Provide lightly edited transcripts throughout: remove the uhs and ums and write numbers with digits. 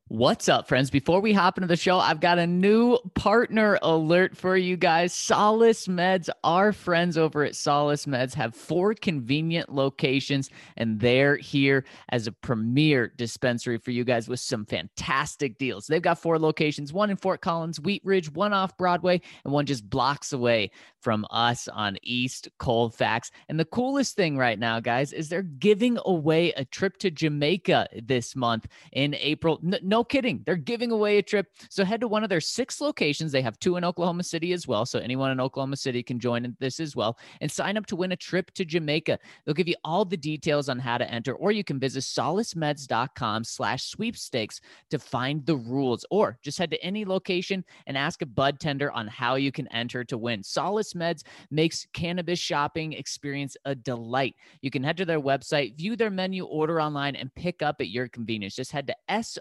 What's up, friends? Before we hop into the show, I've got a new partner alert for you guys. Solace Meds, our friends over at Solace Meds, have 4 convenient locations, and they're here as a premier dispensary for you guys with some fantastic deals. They've got 4 locations, one in Fort Collins, Wheat Ridge, one off Broadway, and one just blocks away from us on East Colfax. And the coolest thing right now, guys, is they're giving away a trip to Jamaica this month in April. No kidding. They're giving away a trip. So head to one of their 6 locations. They have 2 in Oklahoma City as well. So anyone in Oklahoma City can join in this as well and sign up to win a trip to Jamaica. They'll give you all the details on how to enter, or you can visit solacemeds.com/sweepstakes to find the rules, or just head to any location and ask a bud tender on how you can enter to win. Solace Meds makes cannabis shopping experience a delight. You can head to their website, view their menu, order online, and pick up at your convenience. Just head to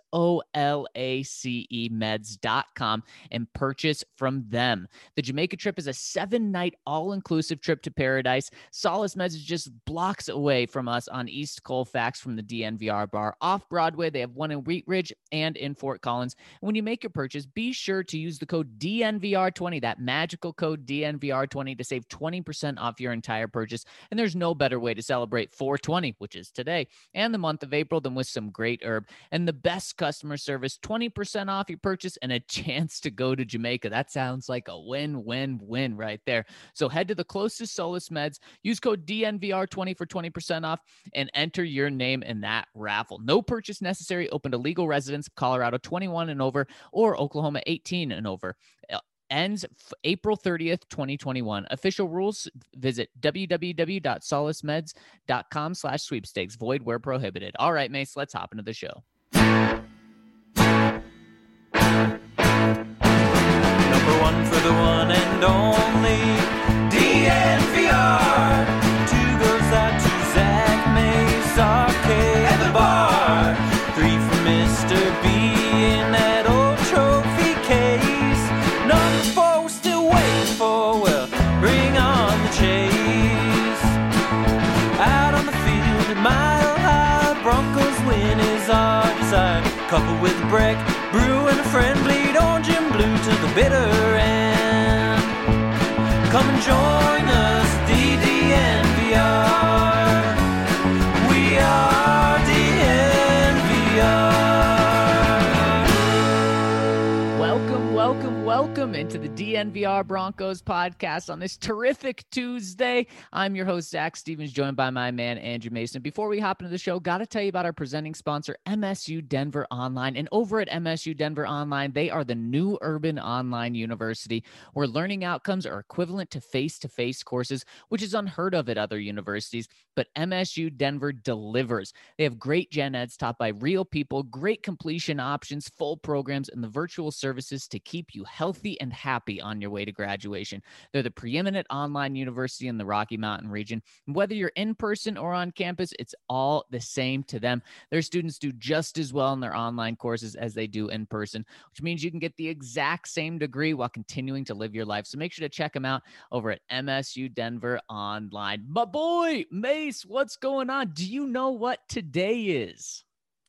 solacemeds.com and purchase from them. The Jamaica trip is a 7-night all-inclusive trip to paradise. Solace Meds is just blocks away from us on East Colfax from the DNVR bar. Off Broadway, they have one in Wheat Ridge and in Fort Collins. And when you make your purchase, be sure to use the code DNVR20, that magical code DNVR20, to save 20% off your entire purchase. And there's no better way to celebrate 420, which is today, and the month of April, than with some great herb and the best customer service, 20% off your purchase and a chance to go to Jamaica. That sounds like a win-win-win right there. So head to the closest Solace Meds, use code DNVR20 for 20% off, and enter your name in that raffle. No purchase necessary. Open to legal residents, Colorado 21 and over, or Oklahoma 18 and over. Ends April 30th, 2021. Official rules, visit www.solacemeds.com/sweepstakes. Void where prohibited. All right, Mace, let's hop into the show. Number one for the one and only DNVR. 2 goes out to Zach Mace, Arcade at the bar. 3 for Mr. B in that old trophy case. Number 4 we're still waiting for, well, bring on the chase. Out on the field at Mile High, Broncos win is our desire. Couple with a break, brew and a friend, bleed orange and blue to the bitter end. Come and join us, DNVR. We are DNVR. Welcome into the DNVR Broncos podcast on this terrific Tuesday. I'm your host, Zach Stevens, joined by my man, Andrew Mason. Before we hop into the show, got to tell you about our presenting sponsor, MSU Denver Online. And over at MSU Denver Online, they are the new urban online university where learning outcomes are equivalent to face-to-face courses, which is unheard of at other universities. But MSU Denver delivers. They have great gen eds taught by real people, great completion options, full programs, and the virtual services to keep you healthy and happy on your way to graduation. They're the preeminent online university in the Rocky Mountain region. And whether you're in person or on campus, it's all the same to them. Their students do just as well in their online courses as they do in person, which means you can get the exact same degree while continuing to live your life. So make sure to check them out over at MSU Denver Online. But boy, Mace, what's going on? Do you know what today is?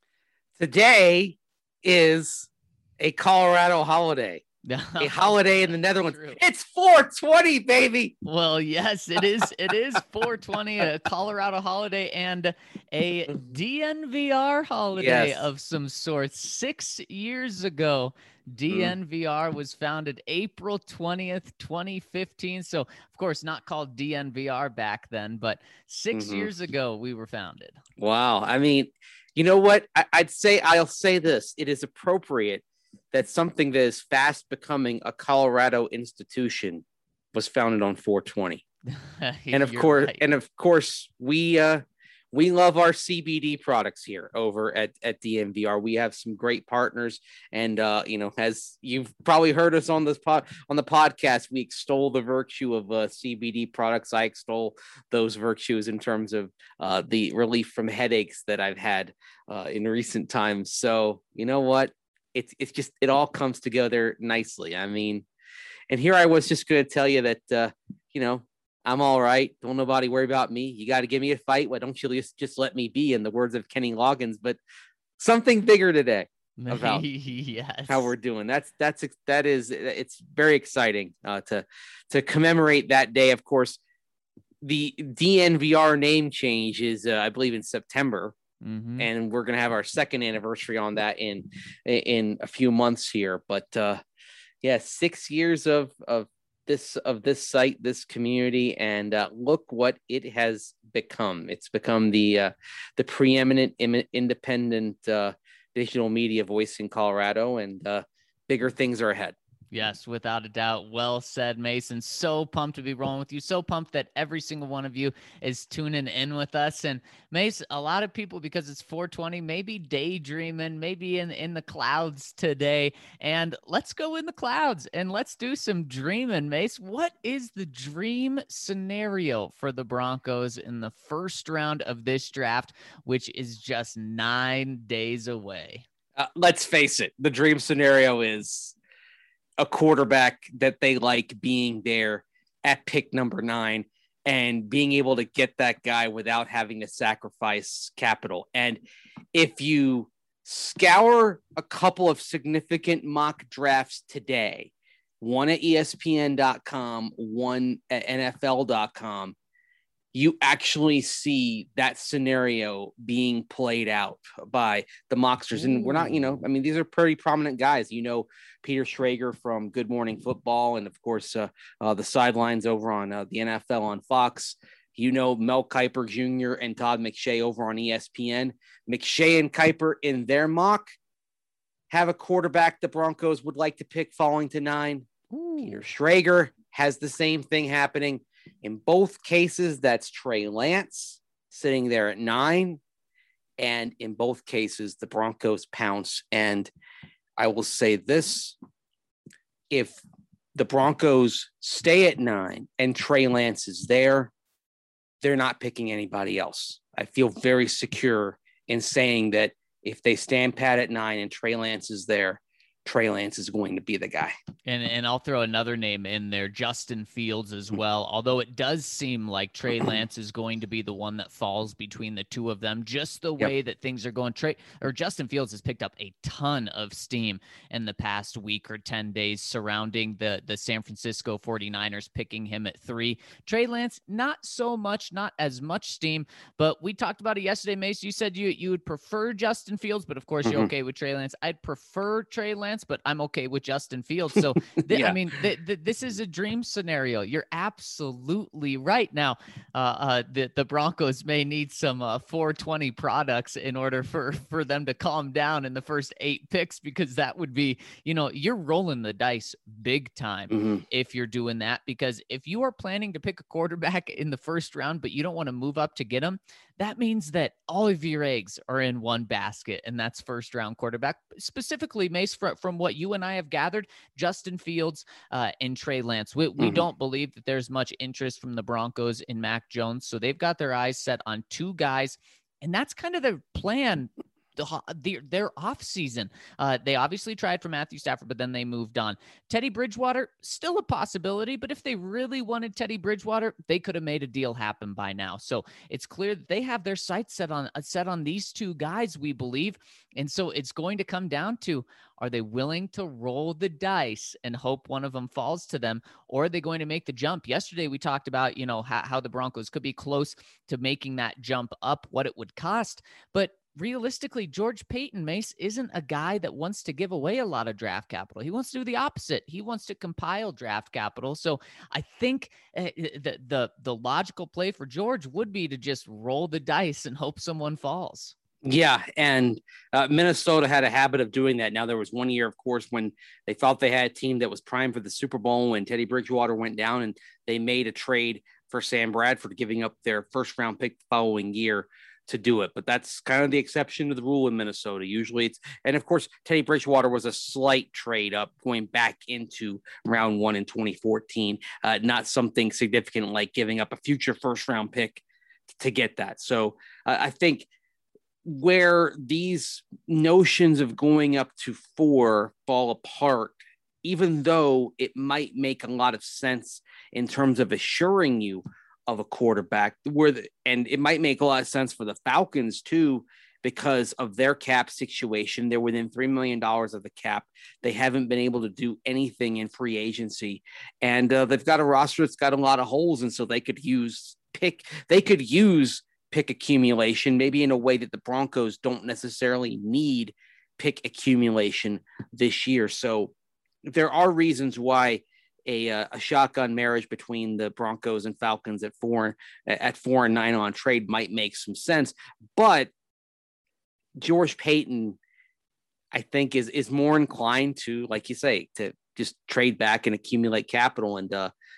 Today is a Colorado holiday. A holiday in the Netherlands. True. It's 420, baby. Well, yes, it is. It is 420, a Colorado holiday and a DNVR holiday Yes. of some sort. 6 years ago, DNVR was founded April 20th, 2015. So, of course, not called DNVR back then, but 6 years ago we were founded. Wow. I mean, you know what? I'll say this. It is appropriate that something that is fast becoming a Colorado institution was founded on 420. And of course, we love our CBD products here over at DNVR. We have some great partners, and as you've probably heard us on the podcast, we extol the virtue of CBD products. I extol those virtues in terms of the relief from headaches that I've had in recent times. So you know what? It's just, it all comes together nicely. I mean, and here I was just going to tell you that, I'm all right. Don't nobody worry about me. You got to give me a fight. Why don't you just let me be, in the words of Kenny Loggins? But something bigger today. about yes. how we're doing. It's very exciting to commemorate that day. Of course, the DNVR name change is, I believe, in September. Mm-hmm. And we're going to have our second anniversary on that in a few months here. But 6 years of this site, this community, and look what it has become. It's become the preeminent independent digital media voice in Colorado, and bigger things are ahead. Yes, without a doubt. Well said, Mason. So pumped to be rolling with you. So pumped that every single one of you is tuning in with us. And Mason, a lot of people, because it's 420, maybe daydreaming, maybe in the clouds today. And let's go in the clouds and let's do some dreaming, Mace. What is the dream scenario for the Broncos in the first round of this draft, which is just 9 days away? Let's face it. The dream scenario is a quarterback that they like being there at pick number 9 and being able to get that guy without having to sacrifice capital. And if you scour a couple of significant mock drafts today, one at ESPN.com, one at NFL.com, you actually see that scenario being played out by the mocksters. And we're not, these are pretty prominent guys. Peter Schrager from Good Morning Football, and of course, the sidelines over on the NFL on Fox. Mel Kiper Jr. and Todd McShay over on ESPN. McShay and Kiper in their mock have a quarterback the Broncos would like to pick falling to 9. Peter Schrager has the same thing happening. In both cases, that's Trey Lance sitting there at 9. And in both cases, the Broncos pounce. And I will say this, if the Broncos stay at 9 and Trey Lance is there, they're not picking anybody else. I feel very secure in saying that if they stand pat at 9 and Trey Lance is there, Trey Lance is going to be the guy. And I'll throw another name in there, Justin Fields as well. Although it does seem like Trey Lance is going to be the one that falls between the two of them, just the way that things are going. Justin Fields has picked up a ton of steam in the past week or 10 days surrounding the San Francisco 49ers picking him at 3. Trey Lance, not so much, not as much steam, but we talked about it yesterday, Mace. You said you would prefer Justin Fields, but of course you're okay with Trey Lance. I'd prefer Trey Lance, but I'm okay with Justin Fields. So, this is a dream scenario. You're absolutely right. Now, the Broncos may need some 420 products in order for them to calm down in the first 8 picks, because that would be, you're rolling the dice big time if you're doing that. Because if you are planning to pick a quarterback in the first round, but you don't want to move up to get him, that means that all of your eggs are in one basket, and that's first round quarterback. Specifically, Mace, from what you and I have gathered, Justin Fields and Trey Lance. We don't believe that there's much interest from the Broncos in Mac Jones, so they've got their eyes set on 2 guys, and that's kind of their plan. Their off season. They obviously tried for Matthew Stafford, but then they moved on. Teddy Bridgewater, still a possibility, but if they really wanted Teddy Bridgewater, they could have made a deal happen by now. So it's clear that they have their sights set on these 2 guys, we believe. And so it's going to come down to, are they willing to roll the dice and hope one of them falls to them, or are they going to make the jump? Yesterday, we talked about, how the Broncos could be close to making that jump up, what it would cost. But realistically, George Payton, Mace, isn't a guy that wants to give away a lot of draft capital. He wants to do the opposite. He wants to compile draft capital. So I think the logical play for George would be to just roll the dice and hope someone falls. Yeah, and Minnesota had a habit of doing that. Now, there was one year, of course, when they thought they had a team that was primed for the Super Bowl when Teddy Bridgewater went down, and they made a trade for Sam Bradford, giving up their first-round pick the following year to do it. But that's kind of the exception to the rule in Minnesota. Usually it's, and of course, Teddy Bridgewater was a slight trade up going back into round 1 in 2014. Not something significant like giving up a future first-round pick to get that. So I think where these notions of going up to 4 fall apart, even though it might make a lot of sense in terms of assuring you of a quarterback, and it might make a lot of sense for the Falcons too, because of their cap situation. They're within $3 million of the cap. They haven't been able to do anything in free agency, and they've got a roster that's got a lot of holes. And so they could use pick accumulation, maybe in a way that the Broncos don't necessarily need pick accumulation this year. So there are reasons why a shotgun marriage between the Broncos and Falcons at 4-9 on trade might make some sense. But George Paton, I think, is more inclined to, like you say, to just trade back and accumulate capital. And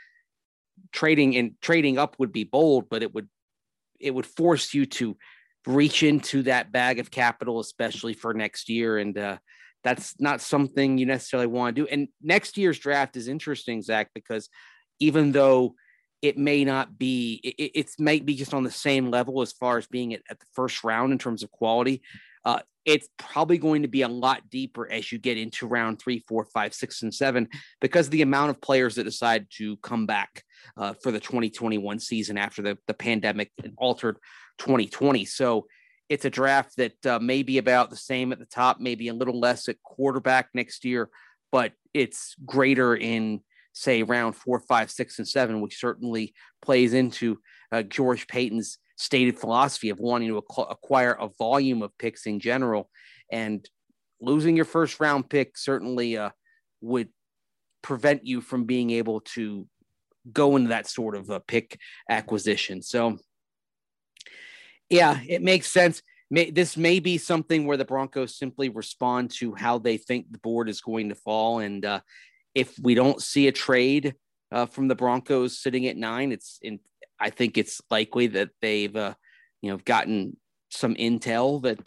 trading up would be bold, but it would force you to reach into that bag of capital, especially for next year. And that's not something you necessarily want to do. And next year's draft is interesting, Zach, because even though it may not be, it might be just on the same level as far as being at the first round in terms of quality. It's probably going to be a lot deeper as you get into round 3, 4, 5, 6, and 7, because of the amount of players that decide to come back for the 2021 season after the pandemic altered 2020. So it's a draft that may be about the same at the top, maybe a little less at quarterback next year, but it's greater in, say, round 4, 5, 6, and 7, which certainly plays into George Paton's stated philosophy of wanting to acquire a volume of picks in general. And losing your first round pick certainly would prevent you from being able to go into that sort of a pick acquisition. So yeah, it makes sense. This may be something where the Broncos simply respond to how they think the board is going to fall. And if we don't see a trade from the Broncos sitting at 9, I think it's likely that they've gotten some intel that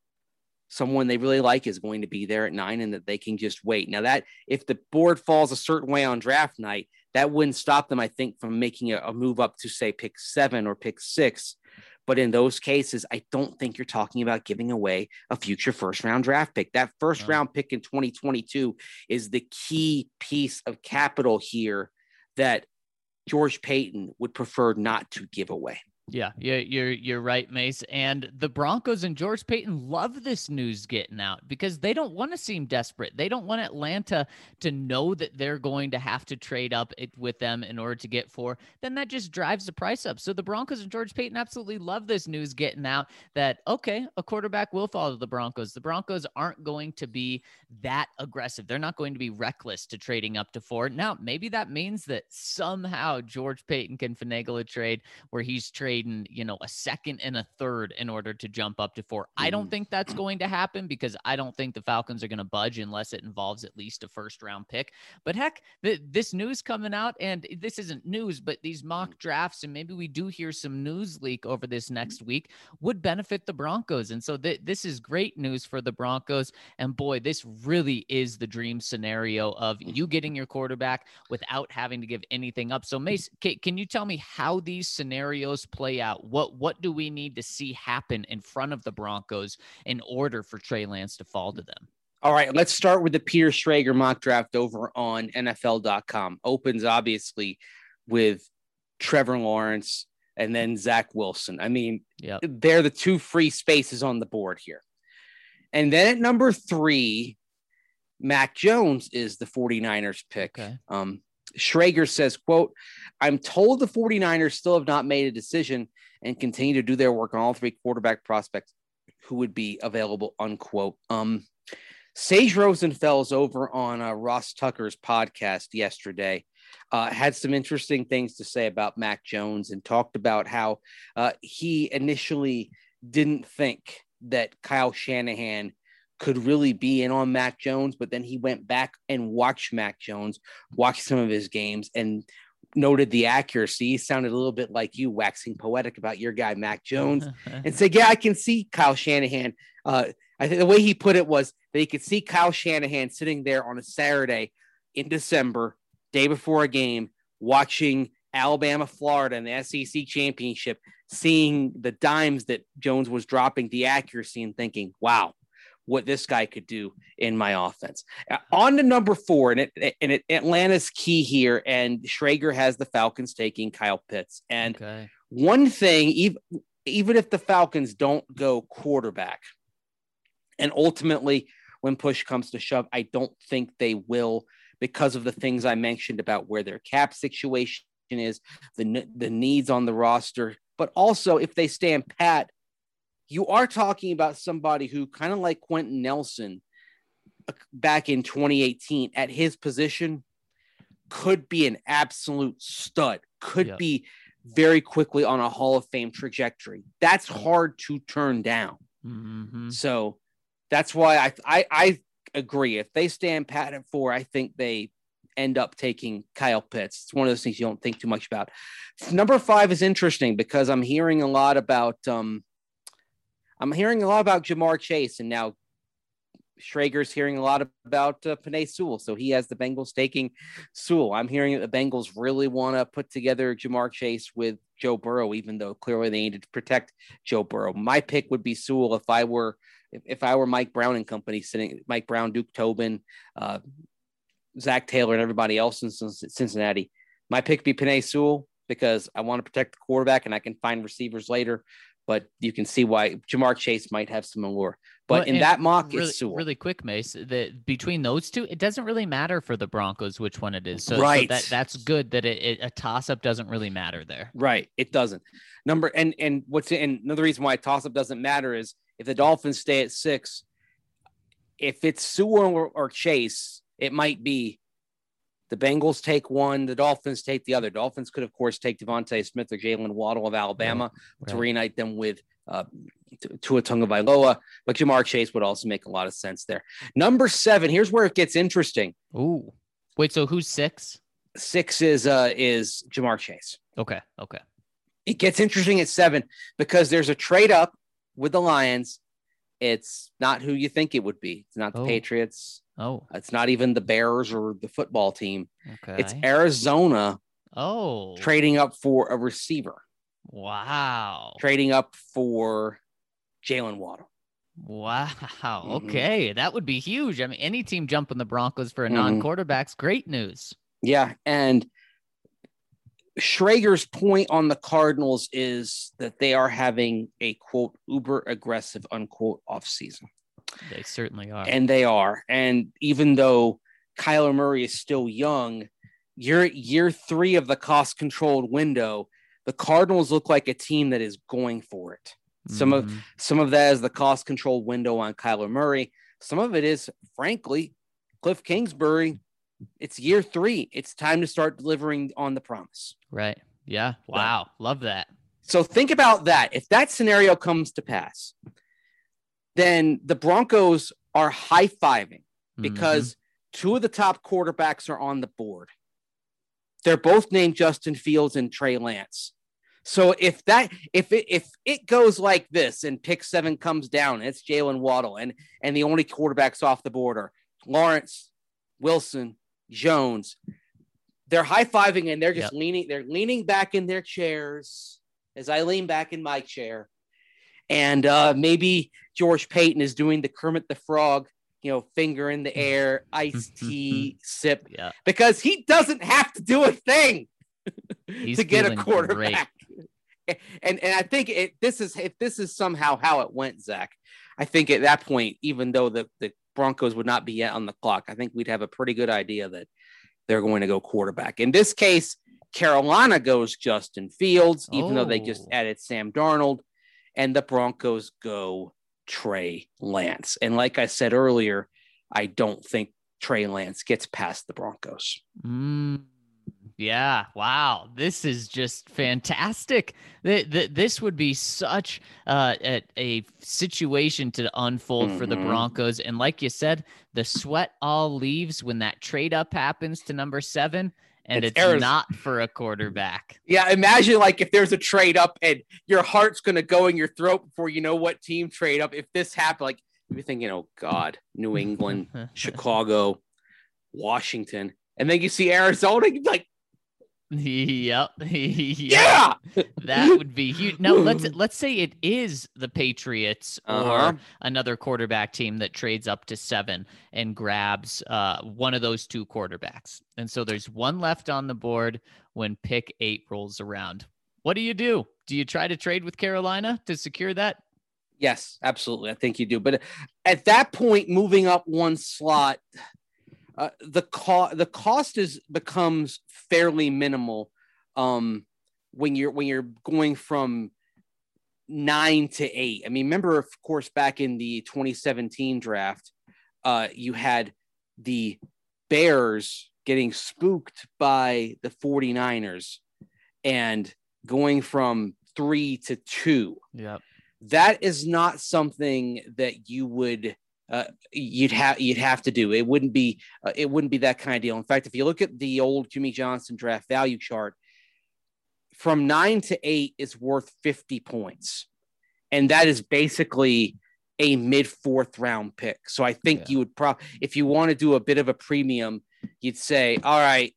someone they really like is going to be there at 9, and that they can just wait. Now, that if the board falls a certain way on draft night, that wouldn't stop them, I think, from making a move up to, say, pick 7 or pick 6. But in those cases, I don't think you're talking about giving away a future first-round draft pick. That first-round pick in 2022 is the key piece of capital here that George Paton would prefer not to give away. Yeah, you're right, Mace. And the Broncos and George Paton love this news getting out because they don't want to seem desperate. They don't want Atlanta to know that they're going to have to trade up with them in order to get 4. Then that just drives the price up. So the Broncos and George Paton absolutely love this news getting out that, okay, a quarterback will fall to the Broncos. The Broncos aren't going to be that aggressive. They're not going to be reckless to trading up to 4. Now, maybe that means that somehow George Paton can finagle a trade where he's trading, a second and a third in order to jump up to 4. I don't think that's going to happen because I don't think the Falcons are going to budge unless it involves at least a first round pick. But heck, this news coming out, and this isn't news, but these mock drafts, and maybe we do hear some news leak over this next week, would benefit the Broncos. And so this is great news for the Broncos. And boy, this really is the dream scenario of you getting your quarterback without having to give anything up. So Mace, can you tell me how these scenarios play out? What do we need to see happen in front of the Broncos in order for Trey Lance to fall to them? All right, let's start with the Peter Schrager mock draft over on NFL.com. Opens obviously with Trevor Lawrence and then Zach Wilson. I mean, They're the 2 free spaces on the board here. And then at number 3, Mac Jones is the 49ers pick. Okay. Schrager says, quote, "I'm told the 49ers still have not made a decision and continue to do their work on all 3 quarterback prospects who would be available," unquote. Sage Rosenfels over on Ross Tucker's podcast yesterday had some interesting things to say about Mac Jones and talked about how he initially didn't think that Kyle Shanahan could really be in on Mac Jones, but then he went back and watched Mac Jones, watched some of his games, and noted the accuracy. He sounded a little bit like you, waxing poetic about your guy, Mac Jones, and said, yeah, I can see Kyle Shanahan. I think the way he put it was that he could see Kyle Shanahan sitting there on a Saturday in December, day before a game, watching Alabama, Florida in the SEC championship, seeing the dimes that Jones was dropping, the accuracy, and thinking, wow, what this guy could do in my offense. On to number 4, and Atlanta's key here, and Schrager has the Falcons taking Kyle Pitts. And one thing, even if the Falcons don't go quarterback, and ultimately when push comes to shove, I don't think they will because of the things I mentioned about where their cap situation is, the needs on the roster, but also if they stand pat, you are talking about somebody who kind of like Quentin Nelson back in 2018 at his position could be an absolute stud, could be very quickly on a Hall of Fame trajectory. That's hard to turn down. Mm-hmm. So that's why I agree. If they stand pat at 4, I think they end up taking Kyle Pitts. It's one of those things you don't think too much about. Number 5 is interesting because I'm hearing a lot about Jamar Chase, and now Schrager's hearing a lot about Penei Sewell. So he has the Bengals taking Sewell. I'm hearing that the Bengals really want to put together Jamar Chase with Joe Burrow, even though clearly they needed to protect Joe Burrow. My pick would be Sewell if I were Mike Brown and company, sitting Mike Brown, Duke Tobin, Zach Taylor, and everybody else in Cincinnati. My pick would be Penei Sewell because I want to protect the quarterback and I can find receivers later. But you can see why Jamar Chase might have some allure. But in that mock, it's Sewell. Really quick, Mace, that between those two, it doesn't really matter for the Broncos which one it is. So, right. So that's good that a toss-up doesn't really matter there. Right. It doesn't. And another reason why a toss-up doesn't matter is if the Dolphins stay at 6, if it's Sewell or Chase, it might be the Bengals take one, the Dolphins take the other. Dolphins could, of course, take Devontae Smith or Jalen Waddle of Alabama to reunite them with Tua Tagovailoa, but Jamar Chase would also make a lot of sense there. Number 7, here's where it gets interesting. Ooh, wait, so who's 6? 6 is Jamar Chase. Okay. It gets interesting at 7 because there's a trade up with the Lions. It's not who you think it would be. It's not the Patriots. It's not even the Bears or the football team. Okay. It's Arizona. Trading up for a receiver. Wow. Trading up for Jalen Waddle. Wow. Okay. That would be huge. I mean, any team jumping the Broncos for a non-quarterback's great news. Yeah. And Schrager's point on the Cardinals is that they are having a, quote, uber aggressive, unquote, offseason. They certainly are. And they are. And even though Kyler Murray is still young, year 3 of the cost-controlled window, the Cardinals look like a team that is going for it. Some of that is the cost-controlled window on Kyler Murray. Some of it is, frankly, Cliff Kingsbury. It's year 3. It's time to start delivering on the promise. Right. Yeah. Wow. Love that. So think about that. If that scenario comes to pass, then the Broncos are high-fiving because 2 of the top quarterbacks are on the board. They're both named Justin Fields and Trey Lance. So if it goes like this and pick 7 comes down, it's Jalen Waddle and the only quarterbacks off the board are Lawrence, Wilson, Jones. They're high-fiving and they're just leaning back in their chairs as I lean back in my chair. And maybe George Payton is doing the Kermit the Frog, finger in the air, iced tea sip, because he doesn't have to do a thing to get a quarterback. And I think if this is somehow how it went, Zach, I think at that point, even though the Broncos would not be yet on the clock, I think we'd have a pretty good idea that they're going to go quarterback. In this case, Carolina goes Justin Fields, even though they just added Sam Darnold, and the Broncos go Trey Lance. And like I said earlier, I don't think Trey Lance gets past the Broncos. Yeah. Wow. This is just fantastic. This would be such a situation to unfold for the Broncos. And like you said, the sweat all leaves when that trade up happens to number 7. And it's not for a quarterback. Yeah, imagine like if there's a trade up and your heart's going to go in your throat before you know what team trade up. If this happened, like you're thinking, oh, God, New England, Chicago, Washington. And then you see Arizona, you're like, Yep. Yeah. That would be huge. Now let's say it is the Patriots or another quarterback team that trades up to 7 and grabs one of those 2 quarterbacks. And so there's one left on the board when pick 8 rolls around. What do you do? Do you try to trade with Carolina to secure that? Yes, absolutely. I think you do. But at that point, moving up one slot, the cost becomes fairly minimal when you're going from 9 to 8. I mean, remember, of course, back in the 2017 draft, you had the Bears getting spooked by the 49ers and going from 3 to 2. Yep. That is not something that you would you'd have to do. It wouldn't be that kind of deal. In fact, if you look at the old Jimmy Johnson draft value chart, from 9 to 8 is worth 50 points. And that is basically a mid 4th round pick. So I think you would if you want to do a bit of a premium, you'd say, all right,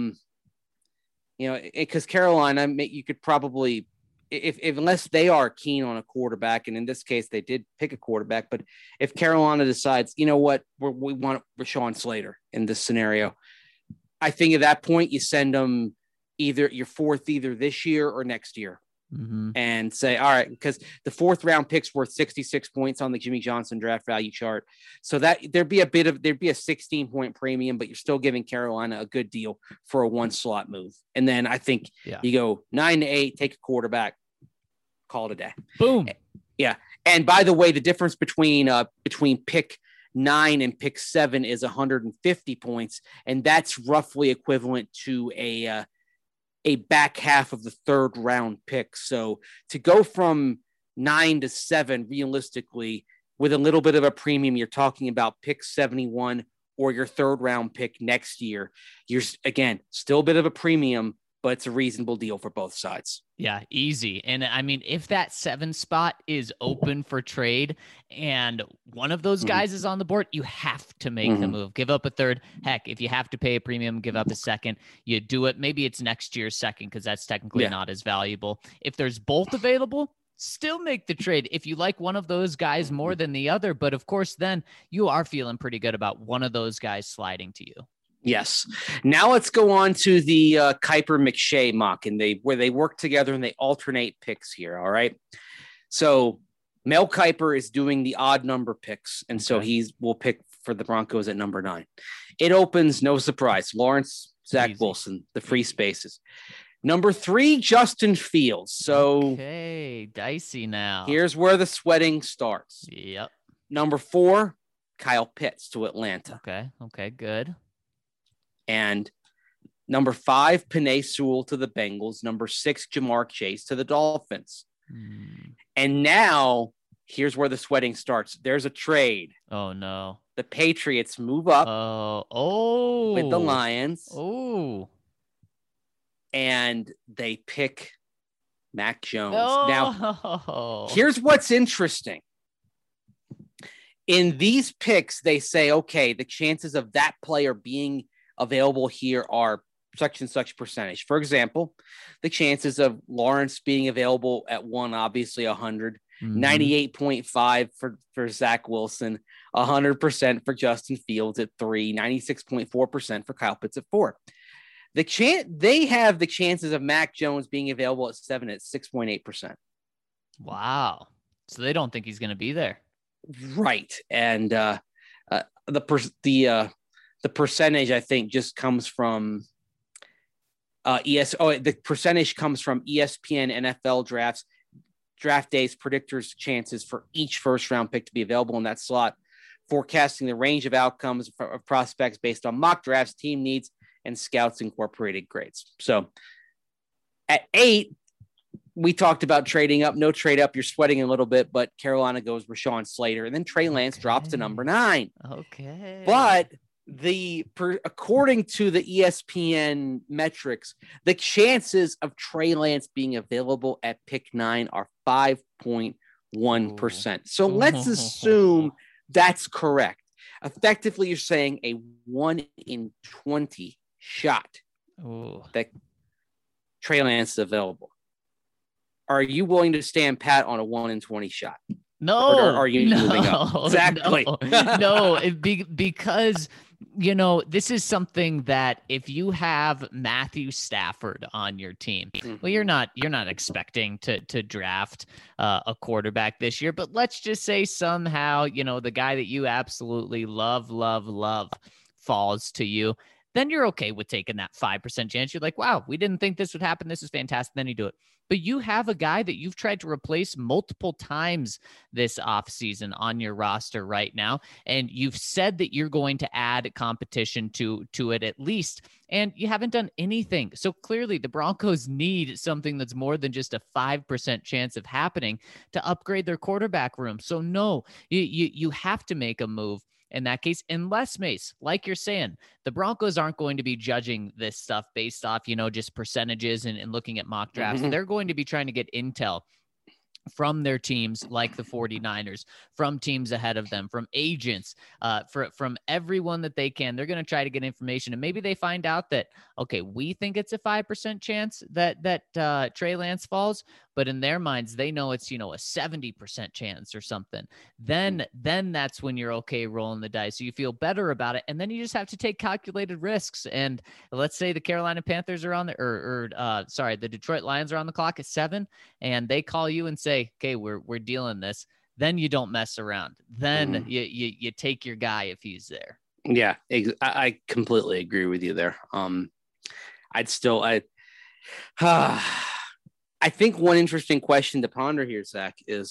because Carolina, you could probably, if unless they are keen on a quarterback, and in this case they did pick a quarterback, but if Carolina decides, you know what, we want Rashawn Slater in this scenario, I think at that point you send them either your 4th either this year or next year, and say, all right, because the 4th round pick's worth 66 points on the Jimmy Johnson draft value chart, so that there'd be a 16-point premium, but you're still giving Carolina a good deal for a 1 slot move. And then I think you go 9 to 8, take a quarterback, call it a day. Boom. Yeah. And by the way, the difference between pick 9 and pick 7 is 150 points, and that's roughly equivalent to a back half of the 3rd round pick. So to go from 9 to 7, realistically, with a little bit of a premium, you're talking about pick 71 or your 3rd round pick next year. You're, again, still a bit of a premium, but it's a reasonable deal for both sides. Yeah, easy. And I mean, if that 7 spot is open for trade and one of those guys is on the board, you have to make the move. Give up a 3rd. Heck, if you have to pay a premium, give up a 2nd. You do it. Maybe it's next year's 2nd because that's technically not as valuable. If there's both available, still make the trade if you like one of those guys more than the other. But of course, then you are feeling pretty good about one of those guys sliding to you. Yes. Now let's go on to the Kiper McShay mock, and where they work together and they alternate picks here. All right. So Mel Kiper is doing the odd number picks, and so will pick for the Broncos at number 9. It opens, no surprise, Lawrence, Zach Wilson, the free spaces. Number 3, Justin Fields. So okay, dicey now. Here's where the sweating starts. Yep. Number 4, Kyle Pitts to Atlanta. Okay, good. And number 5, Penei Sewell to the Bengals. Number 6, Jamar Chase to the Dolphins. And now here's where the sweating starts. There's a trade. Oh, no. The Patriots move up with the Lions. And they pick Mac Jones. Now, here's what's interesting. In these picks, they say, okay, the chances of that player being available here are such and such percentage. For example, the chances of Lawrence being available at 1, obviously 100, 98.5 for Zach Wilson, 100% for Justin Fields at 3, 96.4% for Kyle Pitts at 4. They have the chances of Mac Jones being available at 7 at 6.8%. Wow. So they don't think he's going to be there. Right. And the percentage, I think, just comes from the percentage comes from ESPN NFL draft days predictors chances for each first round pick to be available in that slot, forecasting the range of outcomes of prospects based on mock drafts, team needs, and Scouts Incorporated grades. So at 8, we talked about trading up. No trade up. You're sweating a little bit, but Carolina goes Rashawn Slater, and then Trey Lance drops to number 9. Okay. But according to the ESPN metrics, the chances of Trey Lance being available at pick 9 are 5.1%. So let's assume that's correct. Effectively, you're saying a 1 in 20 shot that Trey Lance is available. Are you willing to stand pat on a 1 in 20 shot? No. Or are you moving up? Exactly. No, because You know, this is something that if you have Matthew Stafford on your team, well, you're not expecting to draft a quarterback this year, but let's just say somehow, you know, the guy that you absolutely love falls to you, then you're okay with taking that 5% chance. You're like, wow, we didn't think this would happen. This is fantastic. Then you do it. But you have a guy that you've tried to replace multiple times this offseason on your roster right now. And you've said that you're going to add competition to it at least. And you haven't done anything. So clearly the Broncos need something that's more than just a 5% chance of happening to upgrade their quarterback room. So no, you have to make a move in that case, unless, Mace, like you're saying, the Broncos aren't going to be judging this stuff based off, you know, just percentages and looking at mock drafts. They're going to be trying to get intel from their teams like the 49ers, from teams ahead of them, from agents, from everyone that they can. They're going to try to get information, and maybe they find out that, okay, we think it's a 5% chance that Trey Lance falls, but in their minds, they know it's, you know, a 70% chance or something. Then that's when you're okay rolling the dice. So you feel better about it. And then you just have to take calculated risks. And let's say the Carolina Panthers are on the Detroit Lions are on the clock at 7, and they call you and say, okay, we're dealing this. Then you don't mess around. Then you take your guy if he's there. Yeah, I completely agree with you there. I think one interesting question to ponder here, Zach, is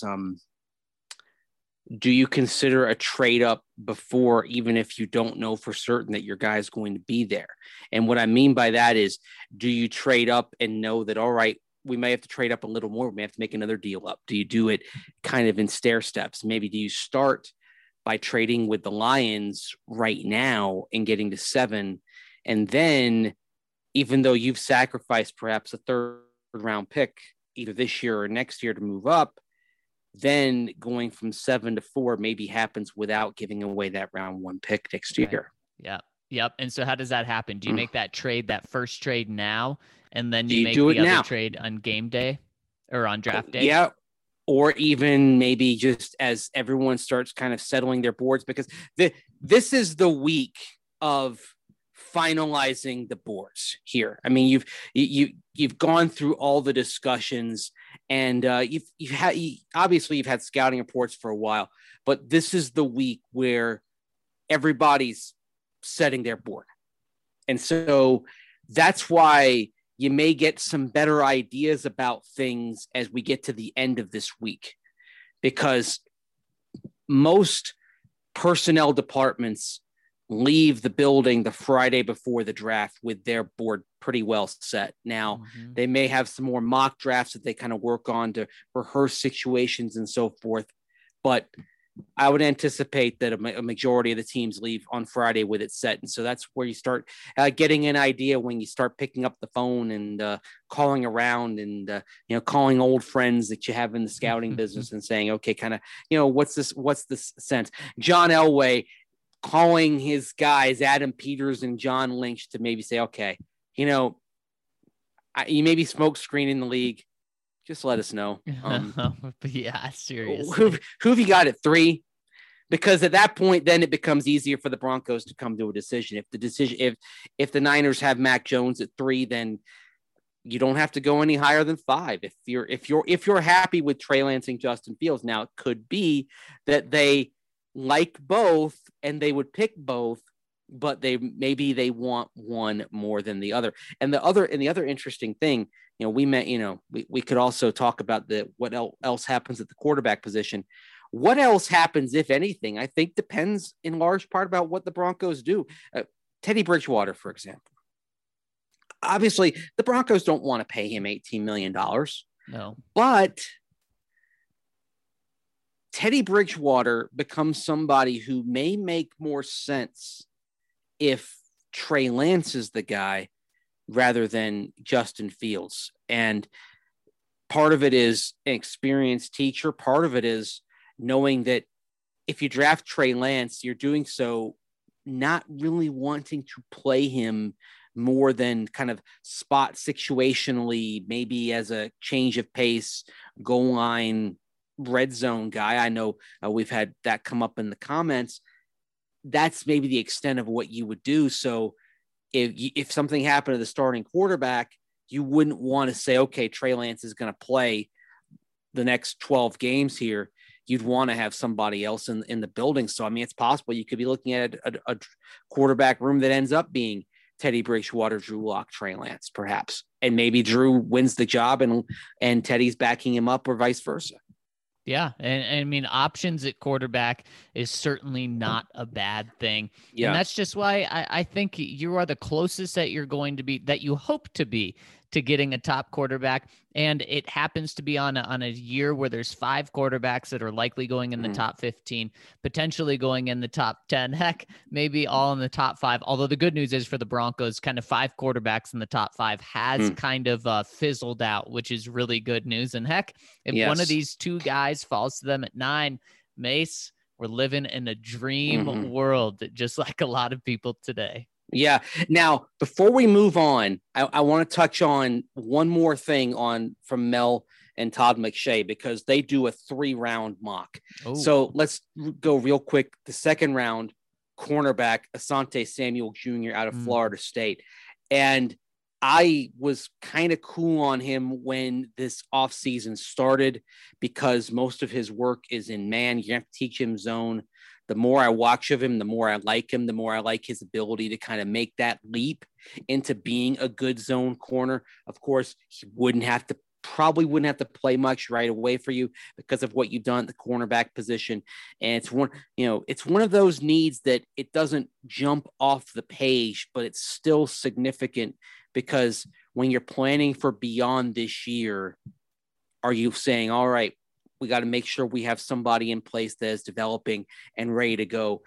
do you consider a trade up before, even if you don't know for certain that your guy is going to be there? And what I mean by that is, do you trade up and know that, all right, we may have to trade up a little more. We may have to make another deal up. Do you do it kind of in stair steps? Maybe do you start by trading with the Lions right now and getting to 7? And then, even though you've sacrificed perhaps a third round pick either this year or next year to move up, then going from 7 to 4 maybe happens without giving away that round 1 pick next year. Yeah. Yep. And so how does that happen? Do you make that trade, that first trade now, and then you make do the it other now? Trade on game day or on draft day? Yeah. Or even maybe just as everyone starts kind of settling their boards, because this is the week of finalizing the boards here. I mean, you've gone through all the discussions, and you've had scouting reports for a while, but this is the week where everybody's setting their board. And so that's why you may get some better ideas about things as we get to the end of this week, because most personnel departments leave the building the Friday before the draft with their board pretty well set. Now, they may have some more mock drafts that they kind of work on to rehearse situations and so forth, but I would anticipate that a majority of the teams leave on Friday with it set. And so that's where you start getting an idea when you start picking up the phone and calling around and, calling old friends that you have in the scouting business and saying, okay, kind of, what's this sense? John Elway calling his guys, Adam Peters and John Lynch, to maybe say, okay, you may be smoke screening the league. Just let us know. Yeah, seriously. Who have you got at 3? Because at that point, then it becomes easier for the Broncos to come to a decision. If the Niners have Mac Jones at 3, then you don't have to go any higher than 5. If you're happy with Trey Lance and Justin Fields, now it could be that they like both and they would pick both, but they want one more than the other. And the other interesting thing, we could also talk about what else happens at the quarterback position. What else happens, if anything, I think depends in large part about what the Broncos do. Teddy Bridgewater, for example. Obviously, the Broncos don't want to pay him $18 million. No. But Teddy Bridgewater becomes somebody who may make more sense if Trey Lance is the guy rather than Justin Fields. And part of it is an experienced teacher. Part of it is knowing that if you draft Trey Lance, you're doing so not really wanting to play him more than kind of spot situationally, maybe as a change of pace, goal line, red zone guy. I know we've had that come up in the comments. that's maybe the extent of what you would do. So if something happened to the starting quarterback, you wouldn't want to say, okay, Trey Lance is going to play the next 12 games here. You'd want to have somebody else in the building. So, I mean, it's possible you could be looking at a quarterback room that ends up being Teddy Bridgewater, Drew Lock, Trey Lance, perhaps. And maybe Drew wins the job and Teddy's backing him up, or vice versa. Yeah. And I mean, options at quarterback is certainly not a bad thing. Yeah. And that's just why I think you are the closest that you're going to be, that you hope to be, to getting a top quarterback. And it happens to be on a year where there's 5 quarterbacks that are likely going in the top 15, potentially going in the top 10, heck, maybe all in the top 5. Although the good news is for the Broncos, kind of 5 quarterbacks in the top 5 has kind of fizzled out, which is really good news. And heck, if one of these 2 guys falls to them at 9, Mace, we're living in a dream world, just like a lot of people today. Yeah. Now, before we move on, I want to touch on one more thing from Mel and Todd McShay, because they do a 3-round mock. Ooh. So let's go real quick. The second round, cornerback Asante Samuel Jr. out of Florida State. And I was kind of cool on him when this offseason started, because most of his work is in man. You have to teach him zone. The more I watch of him, the more I like him, the more I like his ability to kind of make that leap into being a good zone corner. Of course, he probably wouldn't have to play much right away for you because of what you've done at the cornerback position. And it's one of those needs that it doesn't jump off the page, but it's still significant, because when you're planning for beyond this year, are you saying, all right, we got to make sure we have somebody in place that is developing and ready to go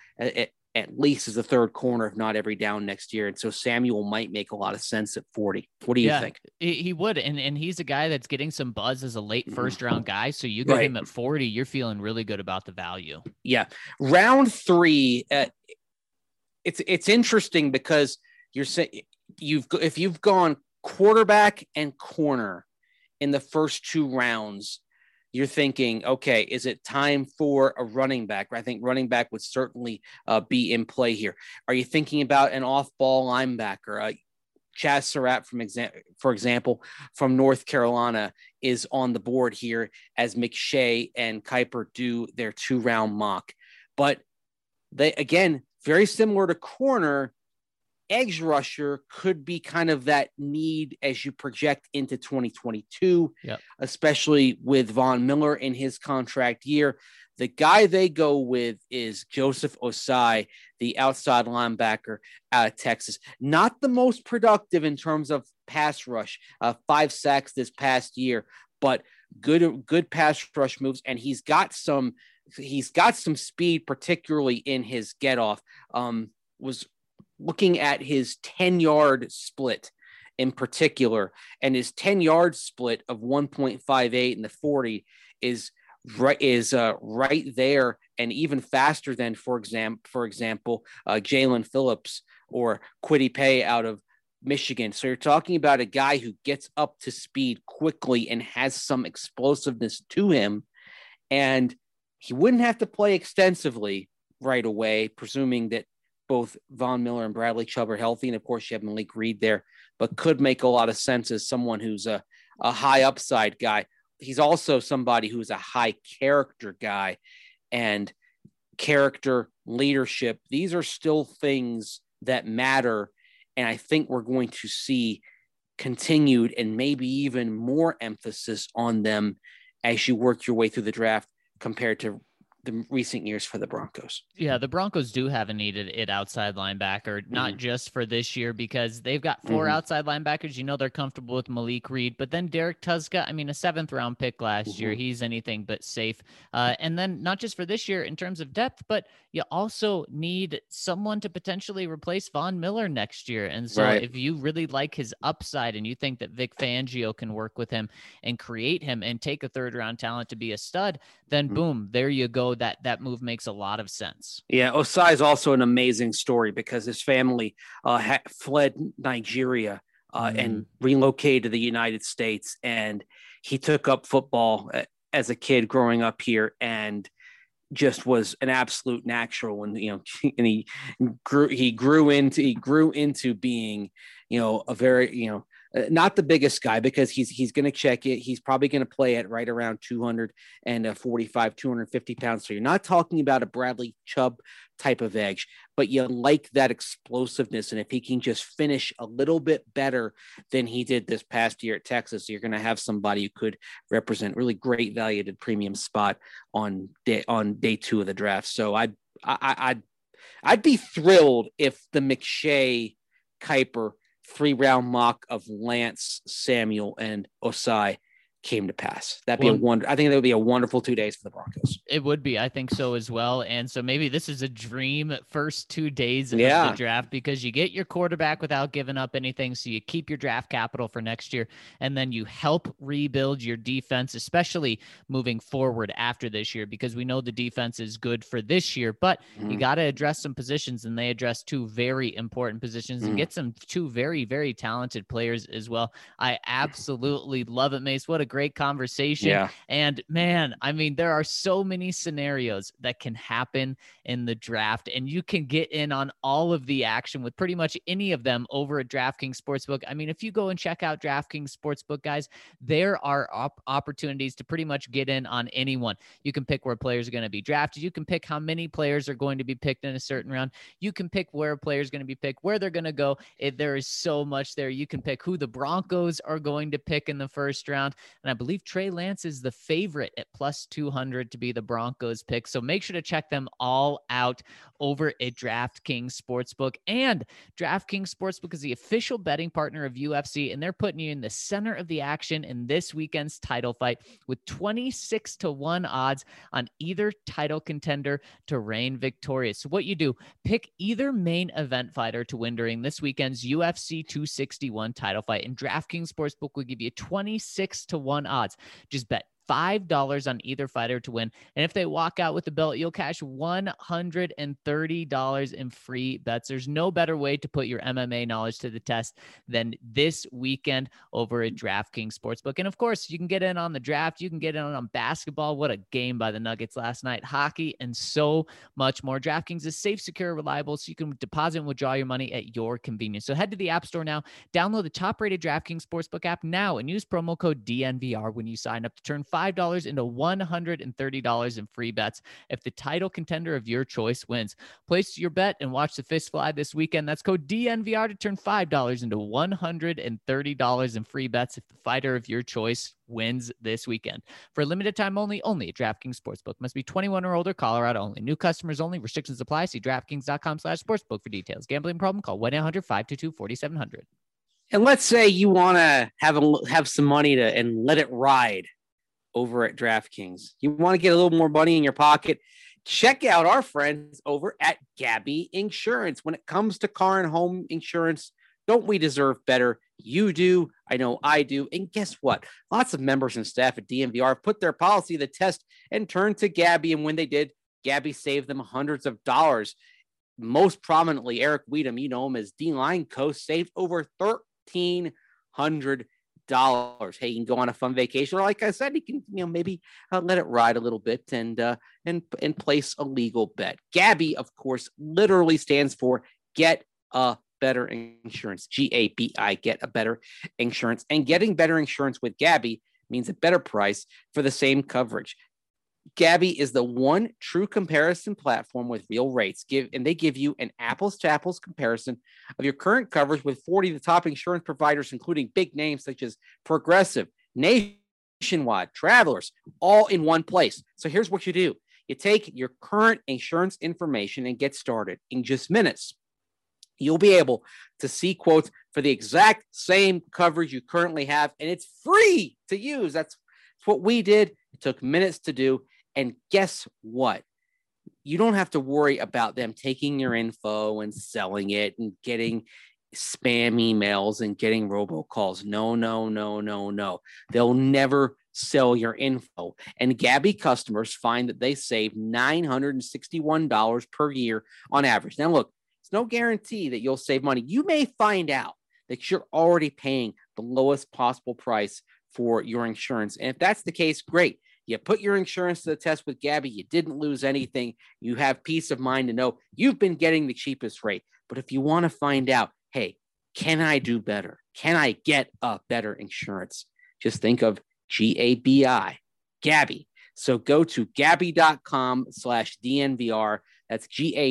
at least as a third corner, if not every down next year. And so Samuel might make a lot of sense at 40. What do you think? He would. And he's a guy that's getting some buzz as a late first round guy. So you get him at 40, you're feeling really good about the value. Yeah. Round 3. It's interesting because you're saying if you've gone quarterback and corner in the first 2 rounds, you're thinking, okay, is it time for a running back? I think running back would certainly be in play here. Are you thinking about an off-ball linebacker? Chaz Surratt, for example, from North Carolina, is on the board here as McShay and Kiper do their 2-round mock. But they, again, very similar to corner, edge rusher could be kind of that need as you project into 2022, especially with Von Miller in his contract year. The guy they go with is Joseph Osai, the outside linebacker out of Texas. Not the most productive in terms of pass rush, 5 sacks this past year, but good pass rush moves. And he's got some speed, particularly in his get off. Was looking at his 10-yard split in particular, and his 10-yard split of 1.58 in the 40 is right there, and even faster than, for example, Jalen Phillips or Kwity Paye out of Michigan. So you're talking about a guy who gets up to speed quickly and has some explosiveness to him, and he wouldn't have to play extensively right away, presuming that both Von Miller and Bradley Chubb are healthy. And of course you have Malik Reed there, but could make a lot of sense as someone who's a high upside guy. He's also somebody who's a high character guy, and character, leadership. These are still things that matter. And I think we're going to see continued and maybe even more emphasis on them as you work your way through the draft compared to the recent years for the Broncos. Yeah, the Broncos do have a need at outside linebacker, not just for this year, because they've got 4 outside linebackers. You know, they're comfortable with Malik Reed, but then Derek Tuzka, I mean, a 7th-round pick last year. He's anything but safe. And then not just for this year in terms of depth, but you also need someone to potentially replace Von Miller next year. And so if you really like his upside and you think that Vic Fangio can work with him and create him and take a 3rd-round talent to be a stud, then boom, there you go. That move makes a lot of sense. Yeah, Osai is also an amazing story because his family fled Nigeria and relocated to the United States, and he took up football as a kid growing up here, and just was an absolute natural, and and he grew into being, a very, not the biggest guy, because he's going to check it. He's probably going to play at right around 245, 250 pounds. So you're not talking about a Bradley Chubb type of edge, but you like that explosiveness. And if he can just finish a little bit better than he did this past year at Texas, you're going to have somebody who could represent really great value at premium spot on day 2 of the draft. So I'd be thrilled if the McShay Kiper 3-round mock of Lance, Samuel, and Osai came to pass. That'd be I think that would be a wonderful 2 days for the Broncos. It would be. I think so as well. And so maybe this is a dream first 2 days of the draft, because you get your quarterback without giving up anything. So you keep your draft capital for next year, and then you help rebuild your defense, especially moving forward after this year, because we know the defense is good for this year, but you got to address some positions, and they address 2 very important positions and get some 2 very, very talented players as well. I absolutely love it, Mace. What a great conversation. Yeah. And man, I mean, there are so many scenarios that can happen in the draft, and you can get in on all of the action with pretty much any of them over at DraftKings Sportsbook. I mean, if you go and check out DraftKings Sportsbook, guys, there are opportunities to pretty much get in on anyone. You can pick where players are going to be drafted. You can pick how many players are going to be picked in a certain round. You can pick where a player is going to be picked, where they're going to go. There is so much there. You can pick who the Broncos are going to pick in the first round. And I believe Trey Lance is the favorite at plus 200 to be the Broncos pick. So make sure to check them all out over at DraftKings Sportsbook. And DraftKings Sportsbook is the official betting partner of UFC, and they're putting you in the center of the action in this weekend's title fight with 26-1 odds on either title contender to reign victorious. So what you do, pick either main event fighter to win during this weekend's UFC 261 title fight, and DraftKings Sportsbook will give you 26-1 odds. Just bet $5 on either fighter to win. And if they walk out with the belt, you'll cash $130 in free bets. There's no better way to put your MMA knowledge to the test than this weekend over at DraftKings Sportsbook. And of course, you can get in on the draft. You can get in on basketball. What a game by the Nuggets last night. Hockey and so much more. DraftKings is safe, secure, reliable, so you can deposit and withdraw your money at your convenience. So head to the App Store now. Download the top-rated DraftKings Sportsbook app now and use promo code DNVR when you sign up to turn $5 into $130 in free bets if the title contender of your choice wins. Place your bet and watch the fist fly this weekend. That's code DNVR to turn $5 into $130 in free bets if the fighter of your choice wins this weekend. For a limited time only at DraftKings Sportsbook. Must be 21 or older, Colorado only. New customers only. Restrictions apply. See DraftKings.com/sportsbook for details. Gambling problem? Call 1-800-522-4700. And let's say you want to have some money and let it ride over at DraftKings. You want to get a little more money in your pocket? Check out our friends over at Gabby Insurance. When it comes to car and home insurance, don't we deserve better? You do. I know I do. And guess what? Lots of members and staff at DNVR have put their policy to the test and turned to Gabby. And when they did, Gabby saved them hundreds of dollars. Most prominently, Eric Weedham, you know him as D-Line Coast, saved over $1,300. Hey, you can go on a fun vacation, or like I said, you can maybe let it ride a little bit and place a legal bet. Gabby, of course, literally stands for Get a Better Insurance. GABI, Get a Better Insurance. And getting better insurance with Gabby means a better price for the same coverage. Gabby is the one true comparison platform with real rates. They give you an apples to apples comparison of your current coverage with 40 of the top insurance providers, including big names such as Progressive, Nationwide, Travelers, all in one place. So here's what you do. You take your current insurance information and get started in just minutes. You'll be able to see quotes for the exact same coverage you currently have, and it's free to use. That's what we did. It took minutes to do. And guess what? You don't have to worry about them taking your info and selling it and getting spam emails and getting robocalls. No. They'll never sell your info. And Gabby customers find that they save $961 per year on average. Now, look, it's no guarantee that you'll save money. You may find out that you're already paying the lowest possible price for your insurance. And if that's the case, great. You put your insurance to the test with Gabby. You didn't lose anything. You have peace of mind to know you've been getting the cheapest rate. But if you want to find out, hey, can I do better? Can I get a better insurance? Just think of GABI, Gabby. So go to Gabby.com/DNVR. That's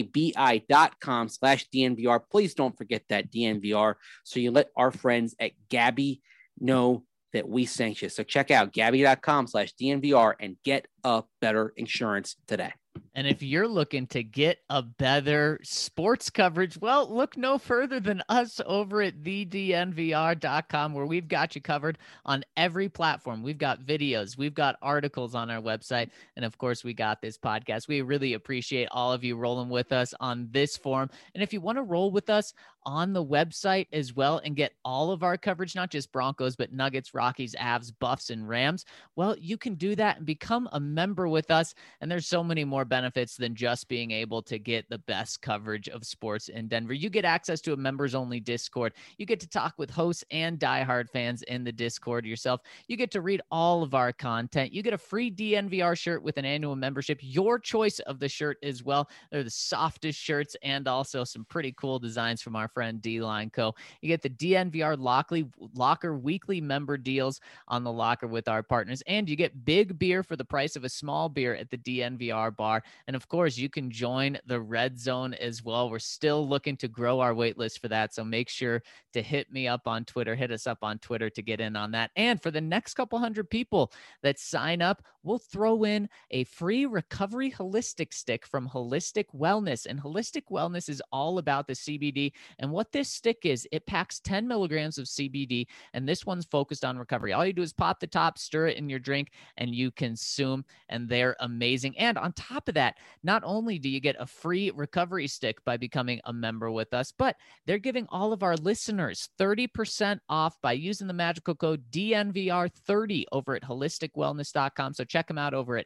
GABI.com/DNVR. Please don't forget that DNVR. So you let our friends at Gabby know that we sent you. So check out Gabby.com/DNVR and get a better insurance today. And if you're looking to get a better sports coverage, well, look no further than us over at thednvr.com, where we've got you covered on every platform. We've got videos, we've got articles on our website, and of course, we got this podcast. We really appreciate all of you rolling with us on this forum. And if you want to roll with us on the website as well and get all of our coverage, not just Broncos, but Nuggets, Rockies, Avs, Buffs, and Rams, well, you can do that and become a member with us. And there's so many more benefits than just being able to get the best coverage of sports in Denver. You get access to a members only Discord. You get to talk with hosts and diehard fans in the Discord yourself. You get to read all of our content. You get a free DNVR shirt with an annual membership, your choice of the shirt as well. They're the softest shirts and also some pretty cool designs from our friend D-Line Co. You get the DNVR Locker weekly member deals on the locker with our partners, and you get big beer for the price of a small beer at the DNVR bar. And of course, you can join the Red Zone as well. We're still looking to grow our wait list for that. So make sure to hit us up on Twitter to get in on that. And for the next couple hundred people that sign up, we'll throw in a free recovery holistic stick from Holistic Wellness. And Holistic Wellness is all about the CBD. And what this stick is, it packs 10 milligrams of CBD, and this one's focused on recovery. All you do is pop the top, stir it in your drink, and you consume, and they're amazing. And on top of that, not only do you get a free recovery stick by becoming a member with us, but they're giving all of our listeners 30% off by using the magical code DNVR30 over at holisticwellness.com. So check them out over at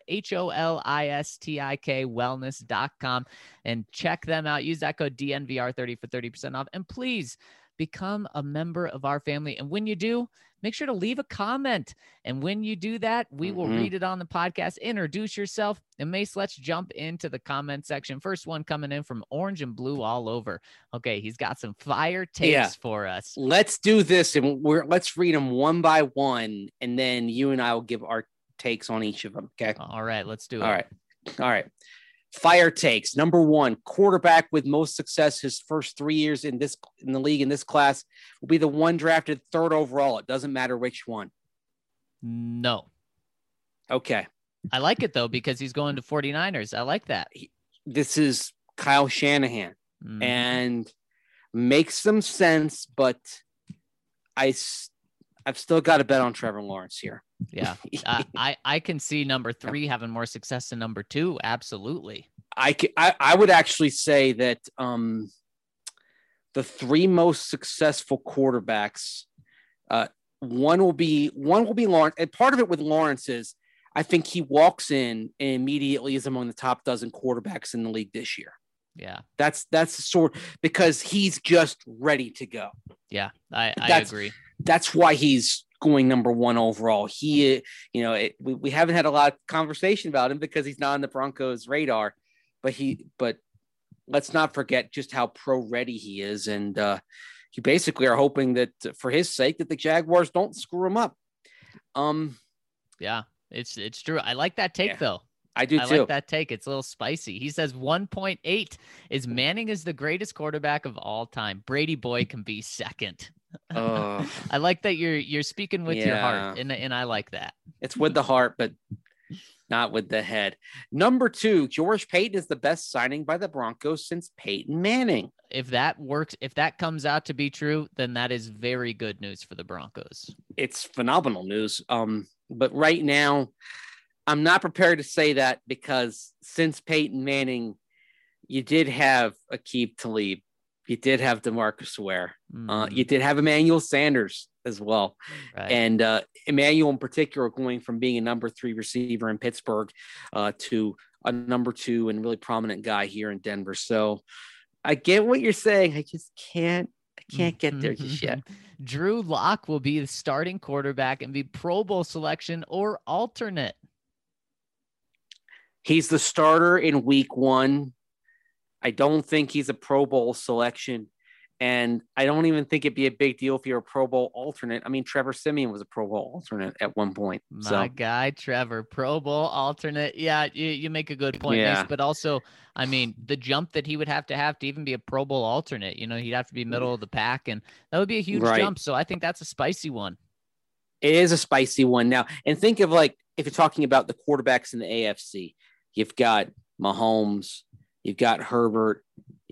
HOLISTIK wellness.com and check them out. Use that code DNVR30 for 30% off. And please become a member of our family. And when you do, make sure to leave a comment. And when you do that, we will read it on the podcast. Introduce yourself. And Mace, let's jump into the comment section. First one coming in from Orange and Blue all over. Okay, he's got some fire takes for us. Let's do this, and let's read them one by one, and then you and I will give our takes on each of them. Okay. All right, let's do it. All right. Fire takes. Number one, quarterback with most success his first 3 years in the league in this class will be the one drafted third overall. It doesn't matter which one. No. Okay. I like it though, because he's going to 49ers. I like that. This is Kyle Shanahan and makes some sense, but I've still got to bet on Trevor Lawrence here. Yeah. I can see number 3 having more success than number 2. Absolutely. I would actually say that the 3 most successful quarterbacks, one will be Lawrence. And part of it with Lawrence is I think he walks in and immediately is among the top dozen quarterbacks in the league this year. Yeah. That's the sort, because he's just ready to go. Yeah. I agree. That's why he's going number 1 overall. We haven't had a lot of conversation about him because he's not on the Broncos radar, but let's not forget just how pro ready he is. And you basically are hoping that for his sake that the Jaguars don't screw him up. Yeah, it's true. I like that take though. I do too. I like that take. It's a little spicy. He says 1.8 is Manning is the greatest quarterback of all time. Brady Boy can be second. I like that you're speaking with your heart, and I like that. It's with the heart, but not with the head. Number 2, George Paton is the best signing by the Broncos since Peyton Manning. If that works, if that comes out to be true, then that is very good news for the Broncos. It's phenomenal news. But right now, I'm not prepared to say that because since Peyton Manning, you did have Aqib Talib. You did have DeMarcus Ware. You did have Emmanuel Sanders as well. Right. And Emmanuel in particular going from being a number 3 receiver in Pittsburgh to a number 2 and really prominent guy here in Denver. So I get what you're saying. I just can't get there just yet. Drew Lock will be the starting quarterback and be Pro Bowl selection or alternate. He's the starter in week 1. I don't think he's a Pro Bowl selection. And I don't even think it'd be a big deal if you're a Pro Bowl alternate. I mean, Trevor Siemian was a Pro Bowl alternate at one point. My guy, Trevor, Pro Bowl alternate. Yeah, you make a good point, Yeah. Mace, but also, I mean, the jump that he would have to even be a Pro Bowl alternate, he'd have to be middle of the pack, and that would be a huge jump. So I think that's a spicy one. It is a spicy one now. And think of, like, if you're talking about the quarterbacks in the AFC, you've got Mahomes, you've got Herbert.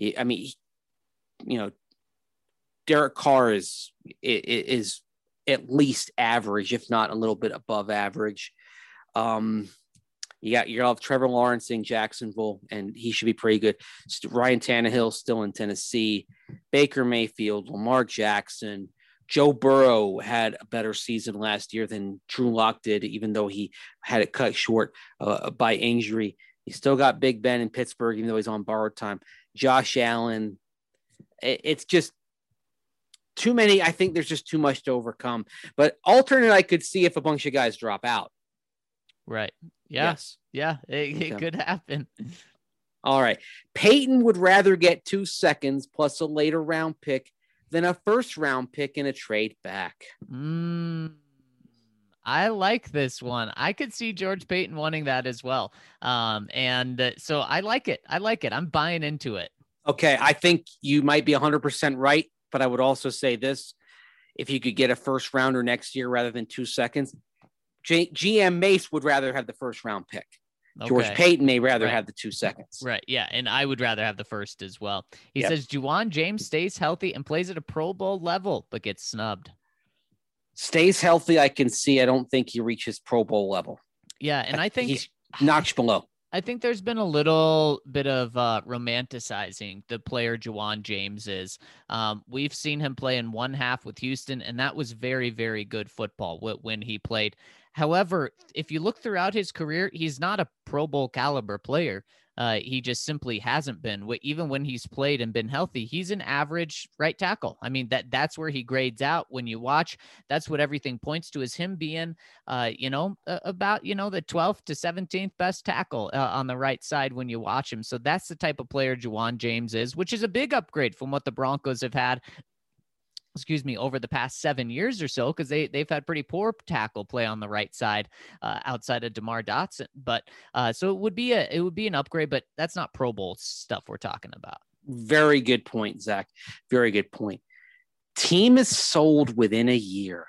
Derek Carr is at least average, if not a little bit above average. You'll have Trevor Lawrence in Jacksonville, and he should be pretty good. Ryan Tannehill still in Tennessee. Baker Mayfield, Lamar Jackson. Joe Burrow had a better season last year than Drew Lock did, even though he had it cut short by injury. He still got Big Ben in Pittsburgh, even though he's on borrowed time. Josh Allen. It's just too many. I think there's just too much to overcome. But alternate, I could see if a bunch of guys drop out. Right. Yeah. Yes. Yeah. It could happen. All right. Peyton would rather get 2 seconds plus a later round pick than a first round pick in a trade back. I like this one. I could see George Payton wanting that as well. So I like it. I'm buying into it. Okay. I think you might be 100% right, but I would also say this. If you could get a first rounder next year rather than 2 seconds, GM Mace would rather have the first round pick. Okay. George Payton may rather have the 2 seconds. Right. Yeah. And I would rather have the first as well. He says Juwan James stays healthy and plays at a Pro Bowl level, but gets snubbed. Stays healthy, I can see. I don't think he reaches Pro Bowl level. Yeah. And I think he's notched below. I think there's been a little bit of romanticizing the player Juwan James is. We've seen him play in one half with Houston, and that was very, very good football when he played. However, if you look throughout his career, he's not a Pro Bowl caliber player. He just simply hasn't been. Even when he's played and been healthy, he's an average right tackle. I mean, that's where he grades out when you watch. That's what everything points to, is him being, about, the 12th to 17th best tackle on the right side when you watch him. So that's the type of player Juwan James is, which is a big upgrade from what the Broncos have had over the past 7 years or so, because they've had pretty poor tackle play on the right side outside of DeMar Dotson. But so it would be an upgrade, but that's not Pro Bowl stuff we're talking about. Very good point, Zach. Very good point. Team is sold within a year.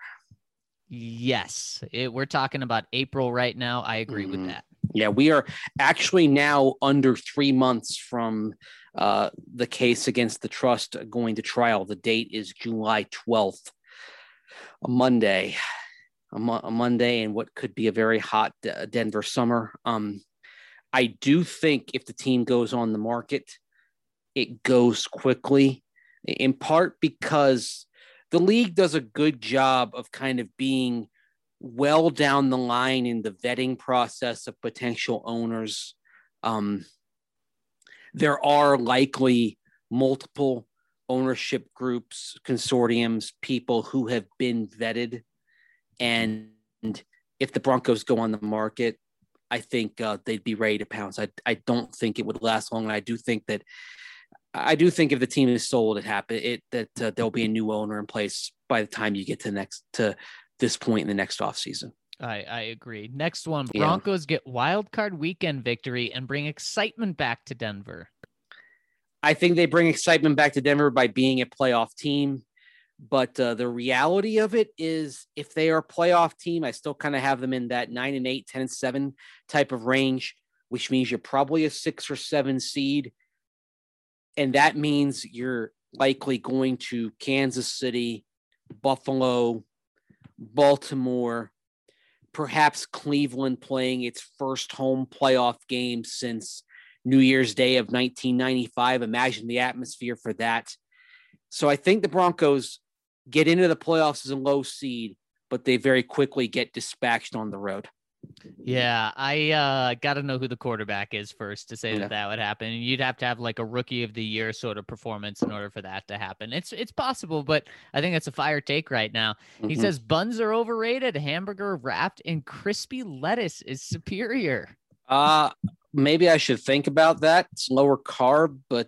Yes, we're talking about April right now. I agree with that. Yeah, we are actually now under 3 months from the case against the trust going to trial. The date is July 12th, a Monday, and what could be a very hot Denver summer. I do think if the team goes on the market, it goes quickly, in part because the league does a good job of kind of being well down the line in the vetting process of potential owners. There are likely multiple ownership groups, consortiums, people who have been vetted. And if the Broncos go on the market, I think they'd be ready to pounce. I don't think it would last long. And I do think if the team is sold, there'll be a new owner in place by the time you get to this point in the next offseason. I agree. Next one, Broncos get wild card weekend victory and bring excitement back to Denver. I think they bring excitement back to Denver by being a playoff team. But the reality of it is, if they are a playoff team, I still kind of have them in that 9-8, 10-7 type of range, which means you're probably a 6 or 7 seed. And that means you're likely going to Kansas City, Buffalo, Baltimore, perhaps Cleveland playing its first home playoff game since New Year's Day of 1995. Imagine the atmosphere for that. So I think the Broncos get into the playoffs as a low seed, but they very quickly get dispatched on the road. Yeah, I got to know who the quarterback is first to say that would happen. And you'd have to have like a rookie of the year sort of performance in order for that to happen. It's possible, but I think it's a fire take right now. He says buns are overrated. Hamburger wrapped in crispy lettuce is superior. maybe I should think about that. It's lower carb, but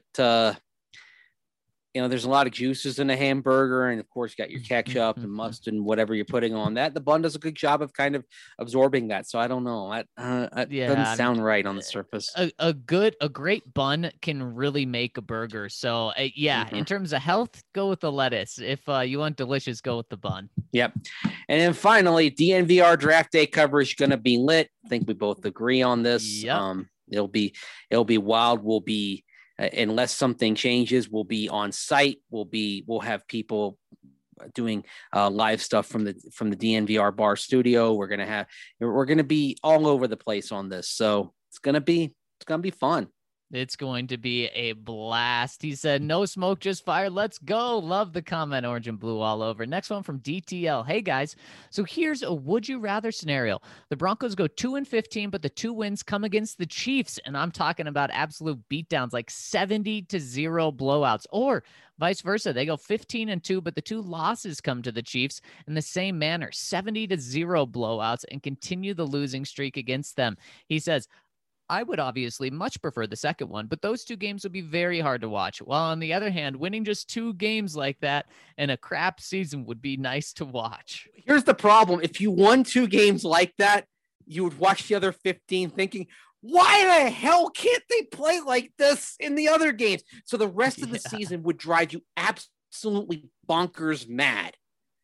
there's a lot of juices in a hamburger, and of course, you got your ketchup and mustard and whatever you're putting on that. The bun does a good job of kind of absorbing that. So I don't know. That doesn't sound right on the surface. A great bun can really make a burger. So in terms of health, go with the lettuce. If you want delicious, go with the bun. Yep. And then finally, DNVR draft day coverage going to be lit. I think we both agree on this. Yep. It'll be wild. We'll be. Unless something changes, we'll be on site. We'll have people doing live stuff from the DNVR bar studio. We're gonna be all over the place on this, so it's gonna be fun. It's going to be a blast. He said, no smoke, just fire. Let's go. Love the comment, orange and blue all over. Next one from DTL. Hey, guys. So here's a would you rather scenario. The Broncos go 2-15, but the 2 wins come against the Chiefs. And I'm talking about absolute beatdowns, like 70-0 blowouts, or vice versa. They go 15-2, but the 2 losses come to the Chiefs in the same manner, 70-0 blowouts, and continue the losing streak against them. He says, I would obviously much prefer the second one, but those 2 games would be very hard to watch. While on the other hand, winning just 2 games like that in a crap season would be nice to watch. Here's the problem. If you won 2 games like that, you would watch the other 15 thinking, why the hell can't they play like this in the other games? So the rest of the season would drive you absolutely bonkers mad.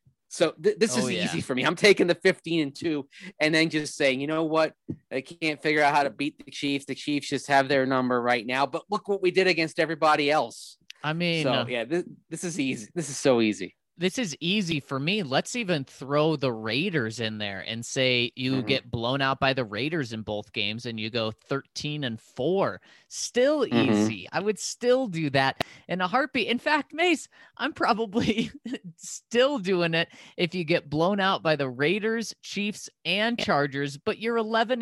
So this is easy for me. I'm taking the 15-2 and then just saying, you know what? I can't figure out how to beat the Chiefs. The Chiefs just have their number right now. But look what we did against everybody else. I mean, this is easy. This is so easy. This is easy for me. Let's even throw the Raiders in there and say you get blown out by the Raiders in both games and you go 13-4. Still easy. I would still do that in a heartbeat. In fact, Mace, I'm probably still doing it if you get blown out by the Raiders, Chiefs, and Chargers, but you're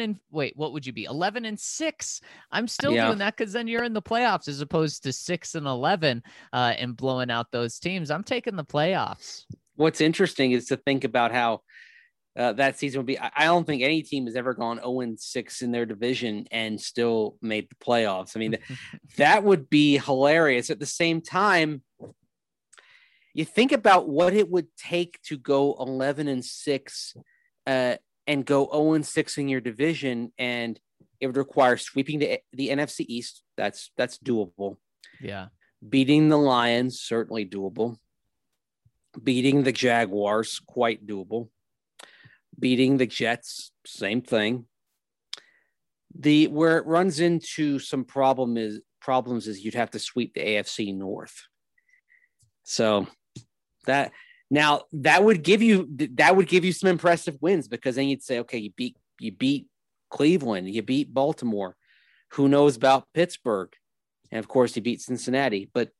11-6. I'm still doing that because then you're in the playoffs as opposed to 6-11 and blowing out those teams. I'm taking the playoffs. What's interesting is to think about how that season would be. I don't think any team has ever gone 0-6 in their division and still made the playoffs. I mean, that would be hilarious. At the same time, you think about what it would take to go 11-6 and go 0-6 in your division, and it would require sweeping the NFC East. That's doable. Yeah. Beating the Lions, certainly doable. Beating the Jaguars, quite doable. Beating the Jets, same thing. Where it runs into some problems is you'd have to sweep the AFC North. So that would give you some impressive wins, because then you'd say, okay, you beat Cleveland, you beat Baltimore. Who knows about Pittsburgh? And of course, you beat Cincinnati. But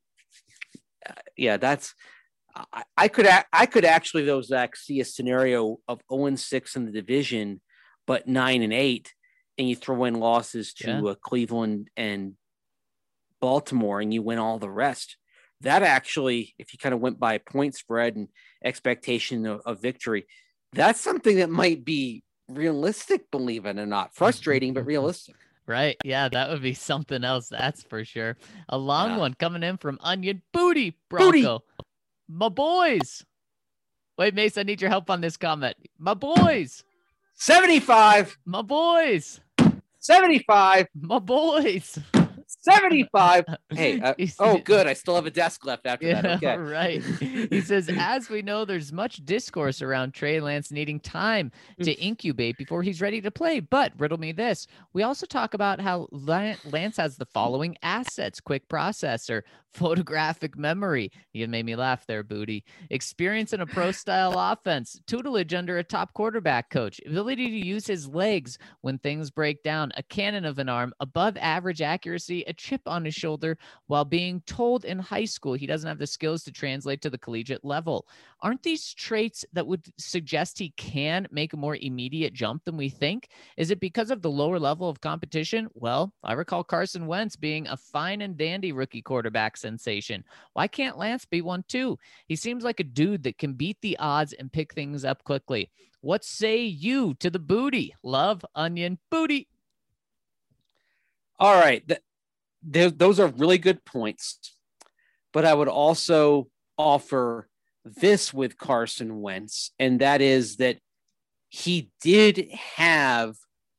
I could actually, though, Zach, see a scenario of 0-6 in the division, but 9-8, and you throw in losses to Cleveland and Baltimore, and you win all the rest. That actually, if you kind of went by point spread and expectation of victory, that's something that might be realistic, believe it or not. Frustrating, but realistic. Right. Yeah, that would be something else. That's for sure. A long one coming in from Onion Booty Bronco. My boys. Wait, Mace, I need your help on this comment. My boys. 75. My boys. 75. My boys. 75. Hey, good. I still have a desk left after that. Okay. Right. He says, as we know, there's much discourse around Trey Lance needing time to incubate before he's ready to play. But riddle me this. We also talk about how Lance has the following assets: quick processor, photographic memory. You made me laugh there, Booty. Experience in a pro-style offense, tutelage under a top quarterback coach, ability to use his legs when things break down, a cannon of an arm, above average accuracy, a chip on his shoulder, while being told in high school he doesn't have the skills to translate to the collegiate level. Aren't these traits that would suggest he can make a more immediate jump than we think? Is it because of the lower level of competition? Well, I recall Carson Wentz being a fine and dandy rookie quarterback sensation. Why can't Lance be one too? He seems like a dude that can beat the odds and pick things up quickly. What say you to the Booty? Love, Onion Booty. All right. Those are really good points. But I would also offer this with Carson Wentz, and that is that he did have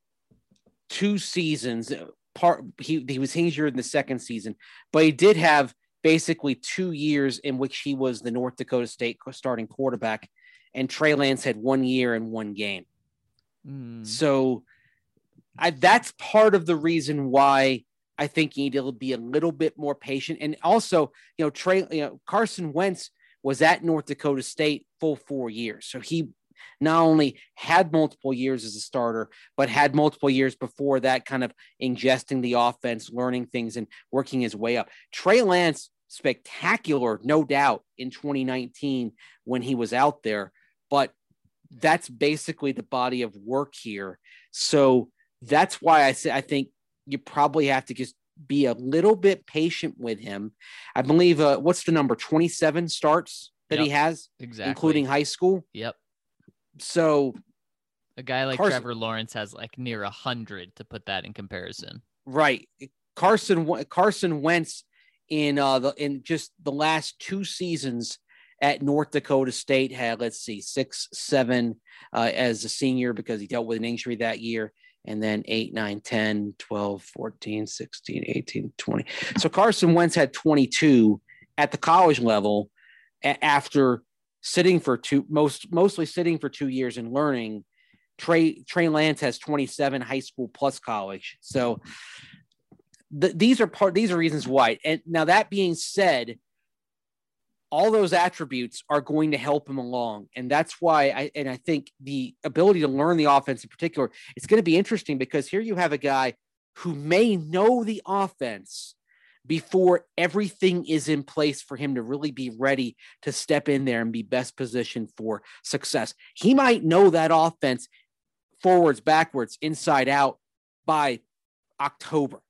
2 seasons. He was injured in the second season, but he did have basically 2 years in which he was the North Dakota State starting quarterback, and Trey Lance had 1 year and 1 game. So that's part of the reason why I think you need to be a little bit more patient. And also, Carson Wentz was at North Dakota State full 4 years. So he not only had multiple years as a starter, but had multiple years before that, kind of ingesting the offense, learning things, and working his way up. Trey Lance, spectacular, no doubt, in 2019 when he was out there, but that's basically the body of work here. So that's why I think you probably have to just be a little bit patient with him. I believe, what's the number? 27 starts that he has, exactly, including high school. Yep. So a guy like Trevor Lawrence has like near 100, to put that in comparison. Right. Carson Wentz in just the last 2 seasons at North Dakota State had, 6, 7 as a senior, because he dealt with an injury that year. And then 8, 9, 10, 12, 14, 16, 18, 20. So Carson Wentz had 22 at the college level after sitting for mostly sitting for 2 years and learning. Trey Lance has 27 high school plus college. So these are reasons why. And now, that being said, all those attributes are going to help him along. And that's why I think the ability to learn the offense in particular, it's going to be interesting, because here you have a guy who may know the offense before everything is in place for him to really be ready to step in there and be best positioned for success. He might know that offense forwards, backwards, inside out by October.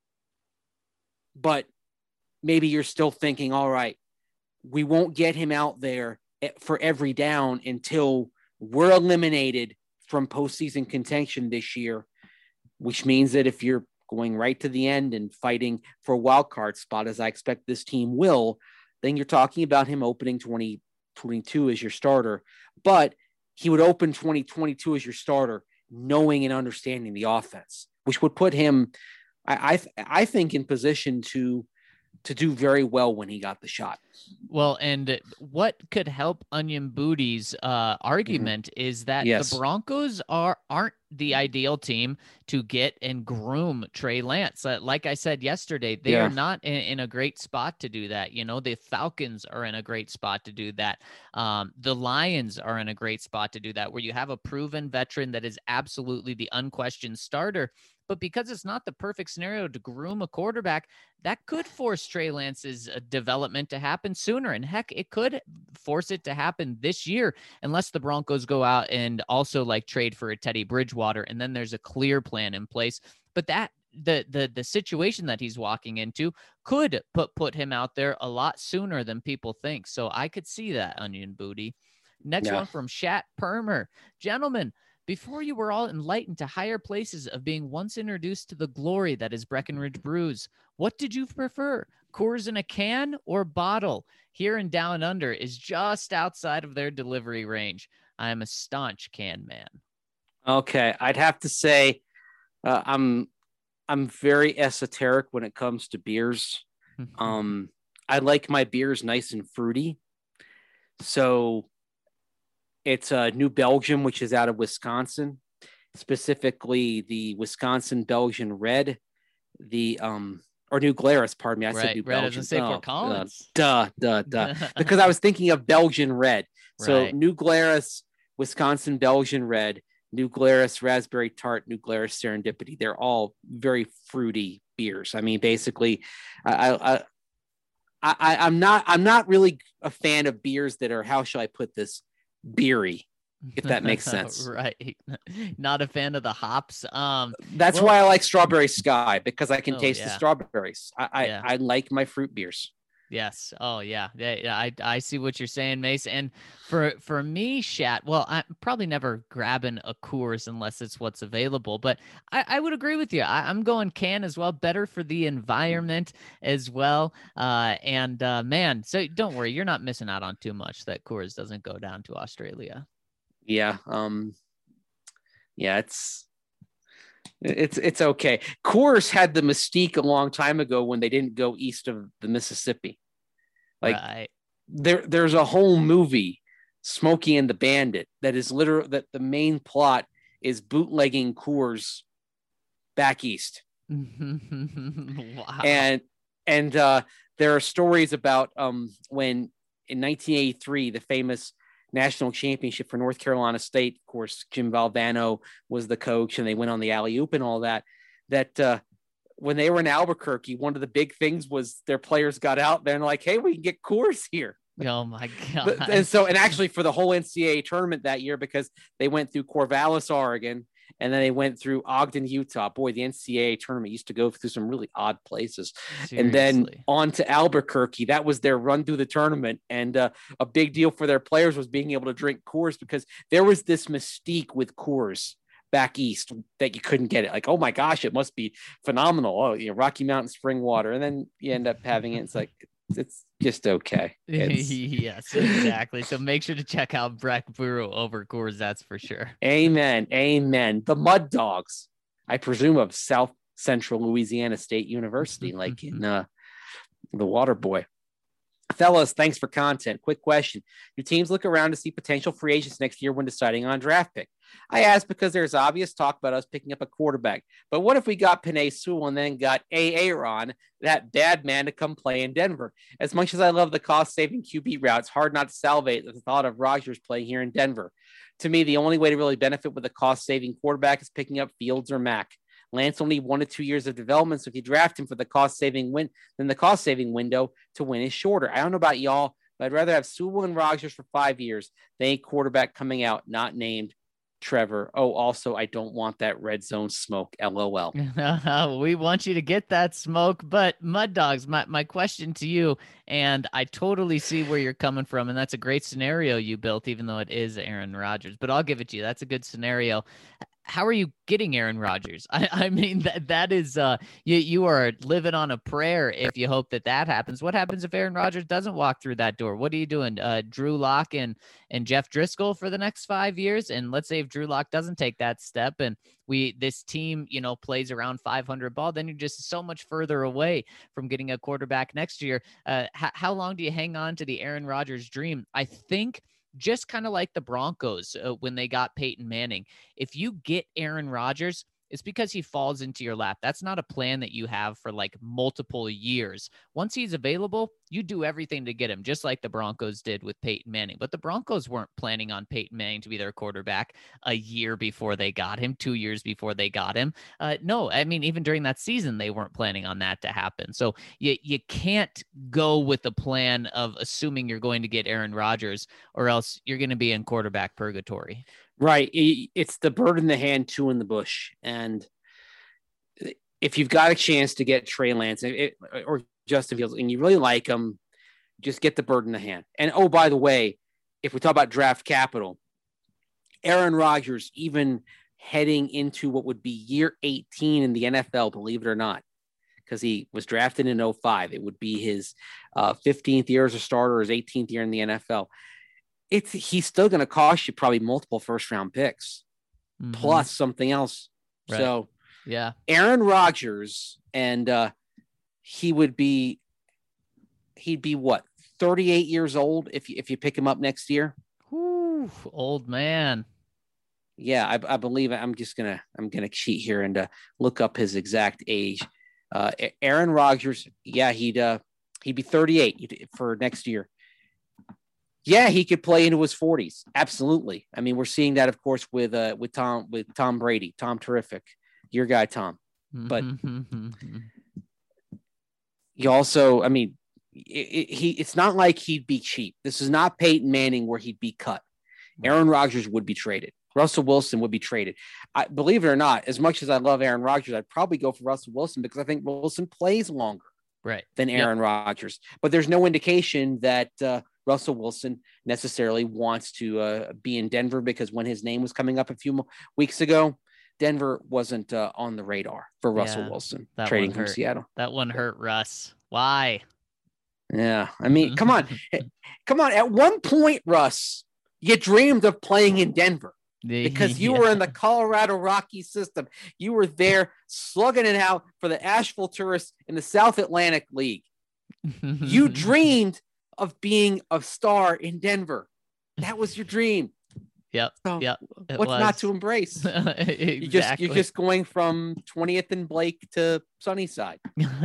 But maybe you're still thinking, all right, we won't get him out there for every down until we're eliminated from postseason contention this year, which means that if you're going right to the end and fighting for a wild card spot, as I expect this team will, then you're talking about him opening 2022 as your starter. But he would open 2022 as your starter, knowing and understanding the offense, which would put him, I think, in position to do very well when he got the shot. Well, and what could help Onion Booty's argument is that the Broncos aren't the ideal team to get and groom Trey Lance. Like I said yesterday, they are not in a great spot to do that. The Falcons are in a great spot to do that. The Lions are in a great spot to do that, where you have a proven veteran that is absolutely the unquestioned starter. But because it's not the perfect scenario to groom a quarterback, that could force Trey Lance's development to happen sooner. And heck, it could force it to happen this year, unless the Broncos go out and also trade for a Teddy Bridgewater, and then there's a clear plan in place. But that the situation that he's walking into could put him out there a lot sooner than people think. So I could see that, Onion Booty. Next one from Shat Permer. Gentlemen, before you were all enlightened to higher places of being once introduced to the glory that is Breckenridge Brews, what did you prefer, Coors in a can or bottle? Here in Down Under is just outside of their delivery range. I am a staunch can man. Okay, I'd have to say I'm very esoteric when it comes to beers. I like my beers nice and fruity. So it's New Belgium, which is out of Wisconsin, specifically the Wisconsin Belgian Red, or New Glarus, pardon me. I said New Belgium. Fort Collins. Because I was thinking of Belgian Red. So New Glarus, Wisconsin Belgian Red, New Glarus Raspberry Tart, New Glarus Serendipity. They're all very fruity beers. I mean, basically, I'm not really a fan of beers that are, how shall I put this, beery, if that makes sense. Right. Not a fan of the hops. That's why I like Strawberry Sky, because I can taste the strawberries. I like my fruit beers. Yes. Oh yeah. Yeah. I see what you're saying, Mace. And for me, Shat, well, I'm probably never grabbing a Coors unless it's what's available. But I would agree with you. I'm going can as well. Better for the environment as well. And man, so don't worry, you're not missing out on too much that Coors doesn't go down to Australia. Yeah. Yeah. It's okay. Coors had the mystique a long time ago when they didn't go east of the Mississippi. Like right. There's a whole movie, Smokey and the Bandit, that is literal, that the main plot is bootlegging Coors back east. Wow. And there are stories about when in 1983, the famous national championship for North Carolina State, of course, Jim Valvano was the coach and they went on the alley-oop and all that, when they were in Albuquerque, one of the big things was their players got out there and like, hey, we can get Coors here. Oh my God. And actually for the whole NCAA tournament that year, because they went through Corvallis, Oregon, and then they went through Ogden, Utah. Boy, the NCAA tournament used to go through some really odd places. Seriously. And then on to Albuquerque. That was their run through the tournament. And a big deal for their players was being able to drink Coors, because there was this mystique with Coors back east that you couldn't get it. Like, oh my gosh, it must be phenomenal. Oh, Rocky Mountain spring water. And then you end up having it. It's like, it's just okay. Yes, exactly. So make sure to check out Breck Brew over Coors. That's for sure. Amen. The Mud Dogs, I presume, of South Central Louisiana State University, like in The Water Boy. Fellas, thanks for content. Quick question. Do teams look around to see potential free agents next year when deciding on draft pick? I ask because there's obvious talk about us picking up a quarterback. But what if we got Penei Sewell and then got Aaron, that bad man, to come play in Denver? As much as I love the cost-saving QB route, it's hard not to salivate at the thought of Rodgers playing here in Denver. To me, the only way to really benefit with a cost-saving quarterback is picking up Fields or Mack. Lance will need 1 to 2 years of development, so if you draft him for the cost-saving win, then the cost-saving window to win is shorter. I don't know about y'all, but I'd rather have Sewell and Rodgers for 5 years than a quarterback coming out not named Trevor. Oh, also, I don't want that red zone smoke. LOL. We want you to get that smoke, but Mud Dogs, my question to you, and I totally see where you're coming from, and that's a great scenario you built, even though it is Aaron Rodgers, but I'll give it to you. That's a good scenario. How are you getting Aaron Rodgers? I mean, that is, you are living on a prayer if you hope that happens. What happens if Aaron Rodgers doesn't walk through that door? What are you doing? Drew Lock and Jeff Driscoll for the next 5 years? And let's say if Drew Lock doesn't take that step and this team, plays around 500 ball, then you're just so much further away from getting a quarterback next year. How long do you hang on to the Aaron Rodgers dream? I think just kind of like the Broncos when they got Peyton Manning. If you get Aaron Rodgers, it's because he falls into your lap. That's not a plan that you have for like multiple years. Once he's available, you do everything to get him, just like the Broncos did with Peyton Manning. But the Broncos weren't planning on Peyton Manning to be their quarterback a year before they got him, 2 years before they got him. No, I mean, even during that season, they weren't planning on that to happen. So you can't go with the plan of assuming you're going to get Aaron Rodgers, or else you're going to be in quarterback purgatory. Right. It's the bird in the hand, two in the bush. And if you've got a chance to get Trey Lance or Justin Fields and you really like them, just get the bird in the hand. And, oh, by the way, if we talk about draft capital, Aaron Rodgers, even heading into what would be year 18 in the NFL, believe it or not, because he was drafted in 2005. It would be his 15th year as a starter, his 18th year in the NFL. He's still going to cost you probably multiple first-round picks, plus something else. Right. So, yeah, Aaron Rodgers, and he'd be what, 38 years old if you pick him up next year. Whew, old man. Yeah, I believe I'm gonna cheat here and look up his exact age. Aaron Rodgers, yeah, he'd be 38 for next year. Yeah, he could play into his 40s. Absolutely. I mean, we're seeing that, of course, with Tom Brady. Tom Terrific, your guy Tom. But you also, I mean, it's not like he'd be cheap. This is not Peyton Manning where he'd be cut. Aaron Rodgers would be traded. Russell Wilson would be traded. Believe it or not, as much as I love Aaron Rodgers, I'd probably go for Russell Wilson because I think Wilson plays longer. right, than Aaron Rodgers. But there's no indication that Russell Wilson necessarily wants to be in Denver, because when his name was coming up a few weeks ago, Denver wasn't on the radar for Russell Wilson trading from Seattle. That one hurt Russ. Why? Yeah. I mean, come on. Come on. At one point, Russ, you dreamed of playing in Denver because you were in the Colorado Rockies system. You were there slugging it out for the Asheville Tourists in the South Atlantic League. You dreamed of being a star in Denver. That was your dream. Yep. So yep. What's not to embrace? Exactly. You're just going from 20th and Blake to Sunnyside.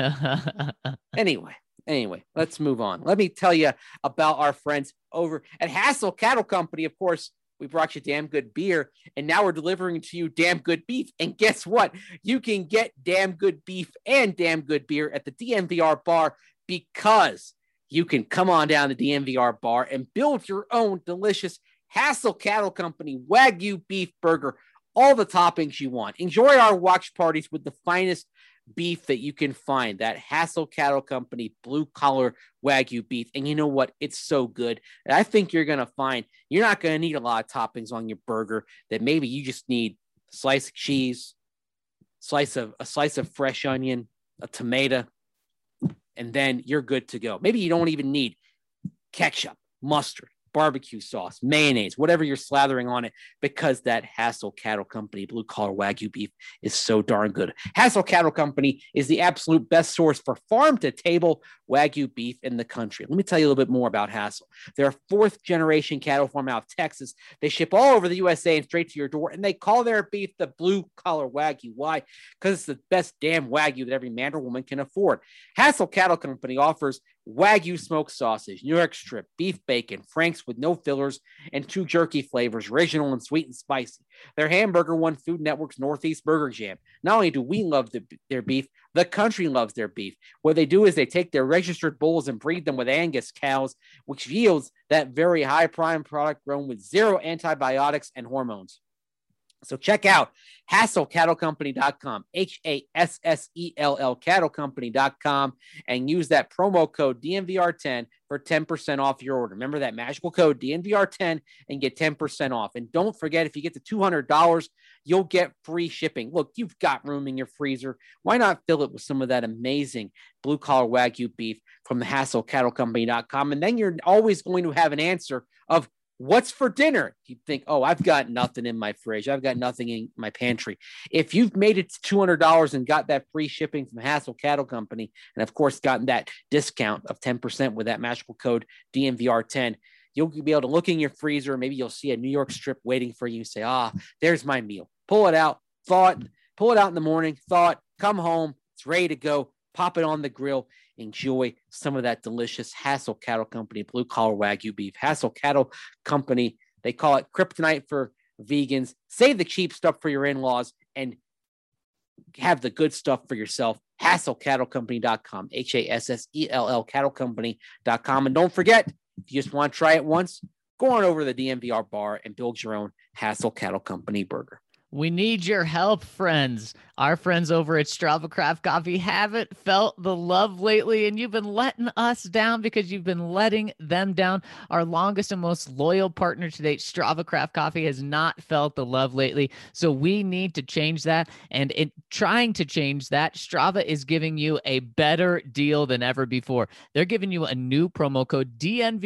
Anyway, let's move on. Let me tell you about our friends over at Hassel Cattle Company. Of course, we brought you damn good beer, and now we're delivering to you damn good beef. And guess what? You can get damn good beef and damn good beer at the DNVR bar, because you can come on down to DNVR bar and build your own delicious Hassel Cattle Company Wagyu beef burger, all the toppings you want. Enjoy our watch parties with the finest beef that you can find, that Hassel Cattle Company blue collar Wagyu beef. And you know what? It's so good. And I think you're going to find you're not going to need a lot of toppings on your burger, that maybe you just need a slice of cheese, a slice of fresh onion, a tomato, and then you're good to go. Maybe you don't even need ketchup, mustard, barbecue sauce, mayonnaise, whatever you're slathering on it, because that Hassel Cattle Company blue collar Wagyu beef is so darn good. Hassel Cattle Company is the absolute best source for farm to table Wagyu beef in the country. Let me tell you a little bit more about Hassel. They're a 4th generation cattle farm out of Texas. They ship all over the USA and straight to your door, and they call their beef the blue collar Wagyu. Why? Because it's the best damn Wagyu that every man or woman can afford. Hassel Cattle Company offers Wagyu smoked sausage, New York strip, beef bacon, Frank's with no fillers, and 2 jerky flavors, original and sweet and spicy. Their hamburger won Food Network's Northeast Burger Jam. Not only do we love their beef, the country loves their beef. What they do is they take their registered bulls and breed them with Angus cows, which yields that very high prime product grown with 0 antibiotics and hormones. So check out HasselCattleCompany.com, HASSELL CattleCompany.com, and use that promo code DNVR10 for 10% off your order. Remember that magical code DNVR10 and get 10% off. And don't forget, if you get to $200, you'll get free shipping. Look, you've got room in your freezer. Why not fill it with some of that amazing blue collar Wagyu beef from the HasselCattleCompany.com? And then you're always going to have an answer of what's for dinner. You think, oh, I've got nothing in my fridge. I've got nothing in my pantry. If you've made it to $200 and got that free shipping from Hassel Cattle Company, and of course gotten that discount of 10% with that magical code DNVR10, you'll be able to look in your freezer. Maybe you'll see a New York strip waiting for you. Say, there's my meal. Pull it out, pull it out in the morning, come home. It's ready to go. Pop it on the grill. Enjoy some of that delicious Hassel Cattle Company blue collar Wagyu beef. Hassel Cattle Company, they call it kryptonite for vegans. Save the cheap stuff for your in-laws and have the good stuff for yourself. HasselCattleCompany.com, HASSELL CattleCompany.com. And don't forget, if you just want to try it once, go on over to the DNVR bar and build your own Hassel Cattle Company burger. We need your help, friends. Our friends over at Strava Craft Coffee haven't felt the love lately, and you've been letting us down because you've been letting them down. Our longest and most loyal partner to date, Strava Craft Coffee, has not felt the love lately, so we need to change that. And in trying to change that, Strava is giving you a better deal than ever before. They're giving you a new promo code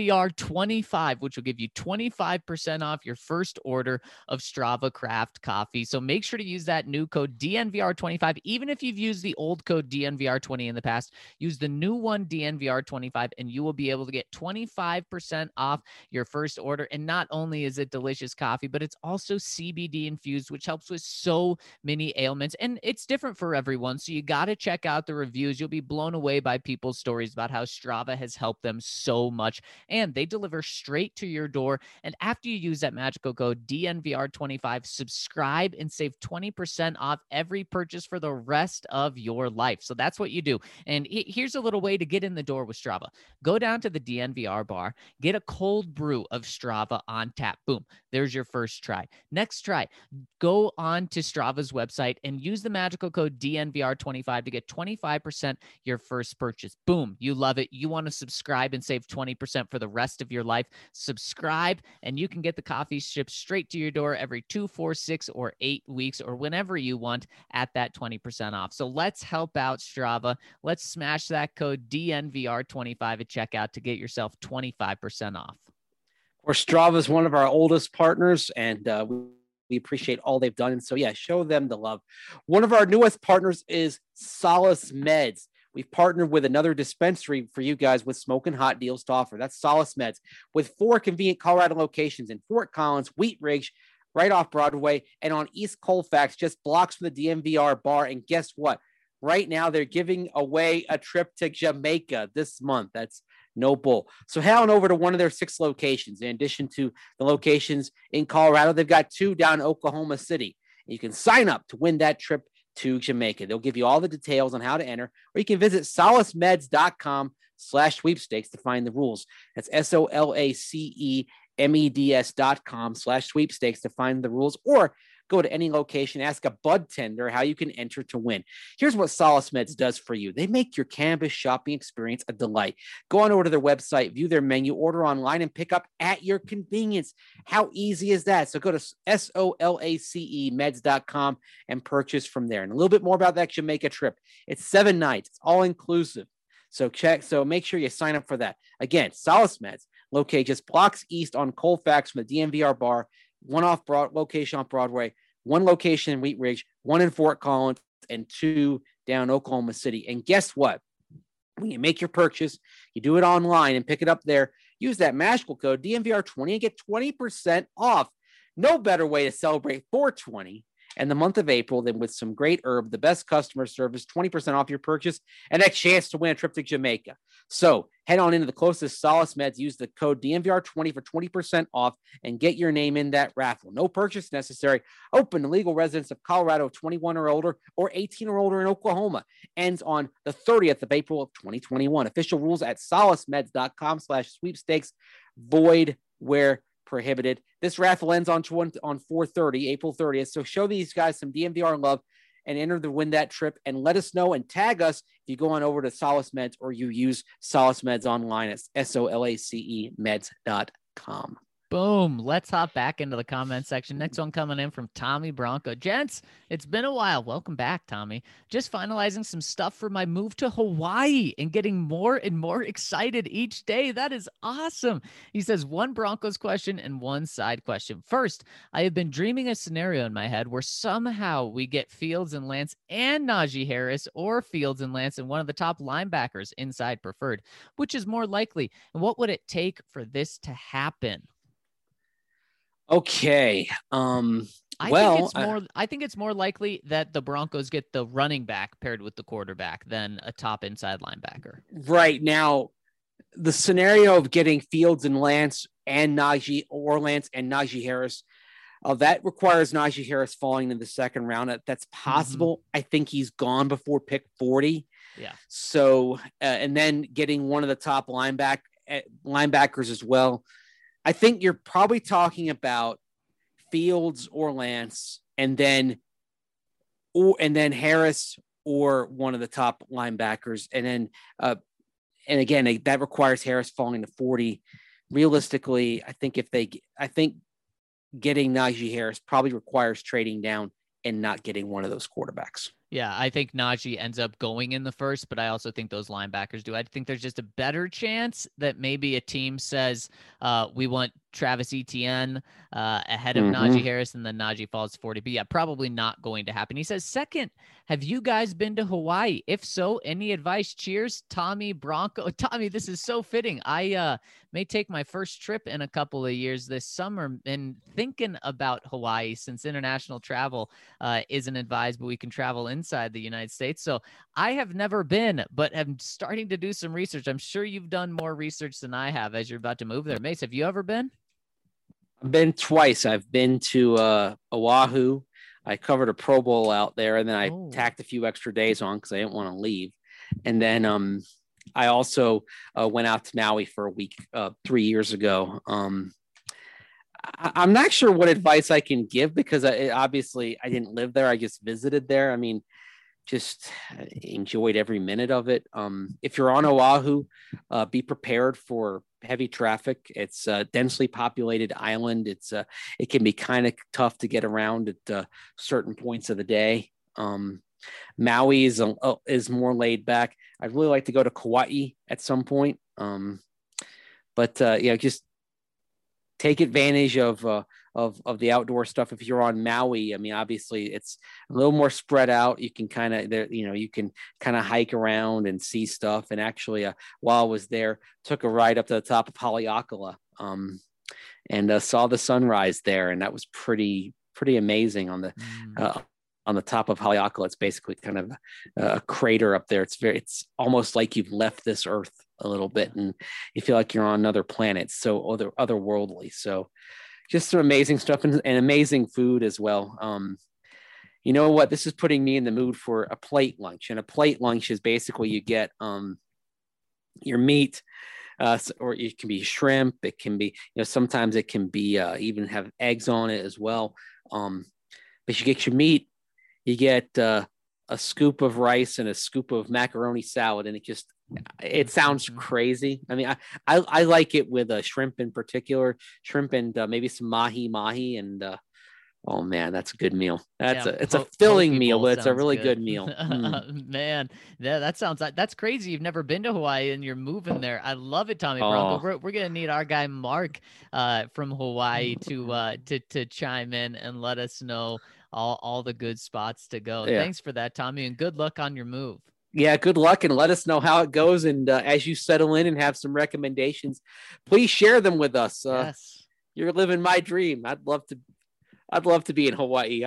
DNVR25, which will give you 25% off your first order of Strava Craft Coffee. So make sure to use that new code DNVR25. Even if you've used the old code DNVR20 in the past, use the new one DNVR25 and you will be able to get 25% off your first order. And not only is it delicious coffee, but it's also CBD infused, which helps with so many ailments. And it's different for everyone. So you got to check out the reviews. You'll be blown away by people's stories about how Strava has helped them so much. And they deliver straight to your door. And after you use that magical code DNVR25, subscribe subscribe and save 20% off every purchase for the rest of your life. So that's what you do. And here's a little way to get in the door with Strava. Go down to the DNVR bar, get a cold brew of Strava on tap. Boom. There's your first try. Next try, go on to Strava's website and use the magical code DNVR25 to get 25% your first purchase. Boom. You love it. You want to subscribe and save 20% for the rest of your life. Subscribe and you can get the coffee shipped straight to your door every 2, 4, 6, or 8 weeks or whenever you want at that 20% off. So let's help out Strava. Let's smash that code DNVR25 at checkout to get yourself 25% off. Of course, Strava is one of our oldest partners, and we appreciate all they've done. And so, yeah, show them the love. One of our newest partners is Solace Meds. We've partnered with another dispensary for you guys with smoking hot deals to offer. That's Solace Meds with 4 convenient Colorado locations in Fort Collins, Wheat Ridge, right off Broadway, and on East Colfax, just blocks from the DNVR bar. And guess what? Right now, they're giving away a trip to Jamaica this month. That's no bull. So head on over to one of their 6 locations. In addition to the locations in Colorado, they've got 2 down in Oklahoma City. And you can sign up to win that trip to Jamaica. They'll give you all the details on how to enter, or you can visit solacemeds.com/sweepstakes to find the rules. That's SOLACEMEDS.com/sweepstakes to find the rules, or go to any location, ask a bud tender how you can enter to win. Here's what Solace Meds does for you. They make your cannabis shopping experience a delight. Go on over to their website, view their menu, order online, and pick up at your convenience. How easy is that? So go to SOLACEMEDS.com and purchase from there. And a little bit more about that Jamaica trip. It's 7 nights. It's all inclusive. So make sure you sign up for that. Again, Solace Meds, located just blocks east on Colfax from the DNVR bar, one location off Broadway, 1 location in Wheat Ridge, 1 in Fort Collins, and 2 down Oklahoma City. And guess what? When you make your purchase, you do it online and pick it up there. Use that magical code DNVR20 and get 20% off. No better way to celebrate 420 and the month of April than with some great herb, the best customer service, 20% off your purchase, and a chance to win a trip to Jamaica. So head on into the closest Solace Meds, use the code DNVR20 for 20% off, and get your name in that raffle. No purchase necessary. Open to legal residents of Colorado, 21 or older, or 18 or older in Oklahoma. Ends on the 30th of April of 2021. Official rules at solacemeds.com/sweepstakes. Void where prohibited. This raffle ends on 4/30, April 30th. So show these guys some DNVR love and enter to win that trip, and let us know and tag us if you go on over to Solace Meds or you use Solace Meds online at SOLACEMEDS.com. Boom. Let's hop back into the comment section. Next one coming in from Tommy Bronco. Gents, it's been a while. Welcome back, Tommy. Just finalizing some stuff for my move to Hawaii and getting more and more excited each day. That is awesome. He says 1 Broncos question and 1 side question. First, I have been dreaming a scenario in my head where somehow we get Fields and Lance and Najee Harris, or Fields and Lance and one of the top linebackers inside preferred. Which is more likely? And what would it take for this to happen? Okay. I think it's more likely that the Broncos get the running back paired with the quarterback than a top inside linebacker. Right now, the scenario of getting Fields and Lance and Najee, or Lance and Najee Harris, that requires Najee Harris falling in the second round. That's possible. Mm-hmm. I think he's gone before pick 40. Yeah. So, and then getting one of the top linebackers as well. I think you're probably talking about Fields or Lance, and then Harris or one of the top linebackers, and then and again that requires Harris falling to 40. Realistically, I think getting Najee Harris probably requires trading down and not getting one of those quarterbacks. Yeah, I think Najee ends up going in the first, but I also think those linebackers do. I think there's just a better chance that maybe a team says we want Travis Etienne ahead of Najee Harris, and then Najee falls 40. But yeah, probably not going to happen. He says, second, have you guys been to Hawaii? If so, any advice? Cheers, Tommy Bronco. Tommy, this is so fitting. I may take my first trip in a couple of years this summer, and thinking about Hawaii, since international travel isn't advised, but we can travel inside the United States. So I have never been, but I'm starting to do some research. I'm sure you've done more research than I have as you're about to move there. Mace, have you ever been? I've been twice. I've been to Oahu. I covered a Pro Bowl out there, and then I tacked a few extra days on because I didn't want to leave. And then I also went out to Maui for a week 3 years ago. I'm not sure what advice I can give because obviously I didn't live there. I just visited there. I mean, just enjoyed every minute of it. If you're on Oahu, be prepared for heavy traffic. It's a densely populated island. It can be kind of tough to get around at certain points of the day. Maui is more laid back. I'd really like to go to Kauai at some point. But just take advantage of the outdoor stuff. If you're on Maui, I mean, obviously it's a little more spread out. You can kind of hike around and see stuff. And actually, while I was there, took a ride up to the top of Haleakala, and saw the sunrise there. And that was pretty amazing on the top of Haleakala. It's basically kind of a crater up there. It's almost like you've left this earth a little bit and you feel like you're on another planet. So otherworldly. So just some amazing stuff and amazing food as well. You know what? This is putting me in the mood for a plate lunch, and a plate lunch is basically you get your meat, or it can be shrimp. It can be, sometimes it can be even have eggs on it as well. But you get your meat, you get a scoop of rice and a scoop of macaroni salad, and it sounds crazy. I mean, I like it with shrimp in particular, shrimp and maybe some mahi, and oh man, that's a good meal. It's a filling meal, but it's a really good meal. Man, that's crazy. You've never been to Hawaii and you're moving there. I love it, Tommy Bronco. We're gonna need our guy Mark from Hawaii to chime in and let us know all the good spots to go. Yeah. Thanks for that, Tommy, and good luck on your move. Yeah, good luck, and let us know how it goes. And as you settle in and have some recommendations, please share them with us. Yes. You're living my dream. I'd love to be in Hawaii.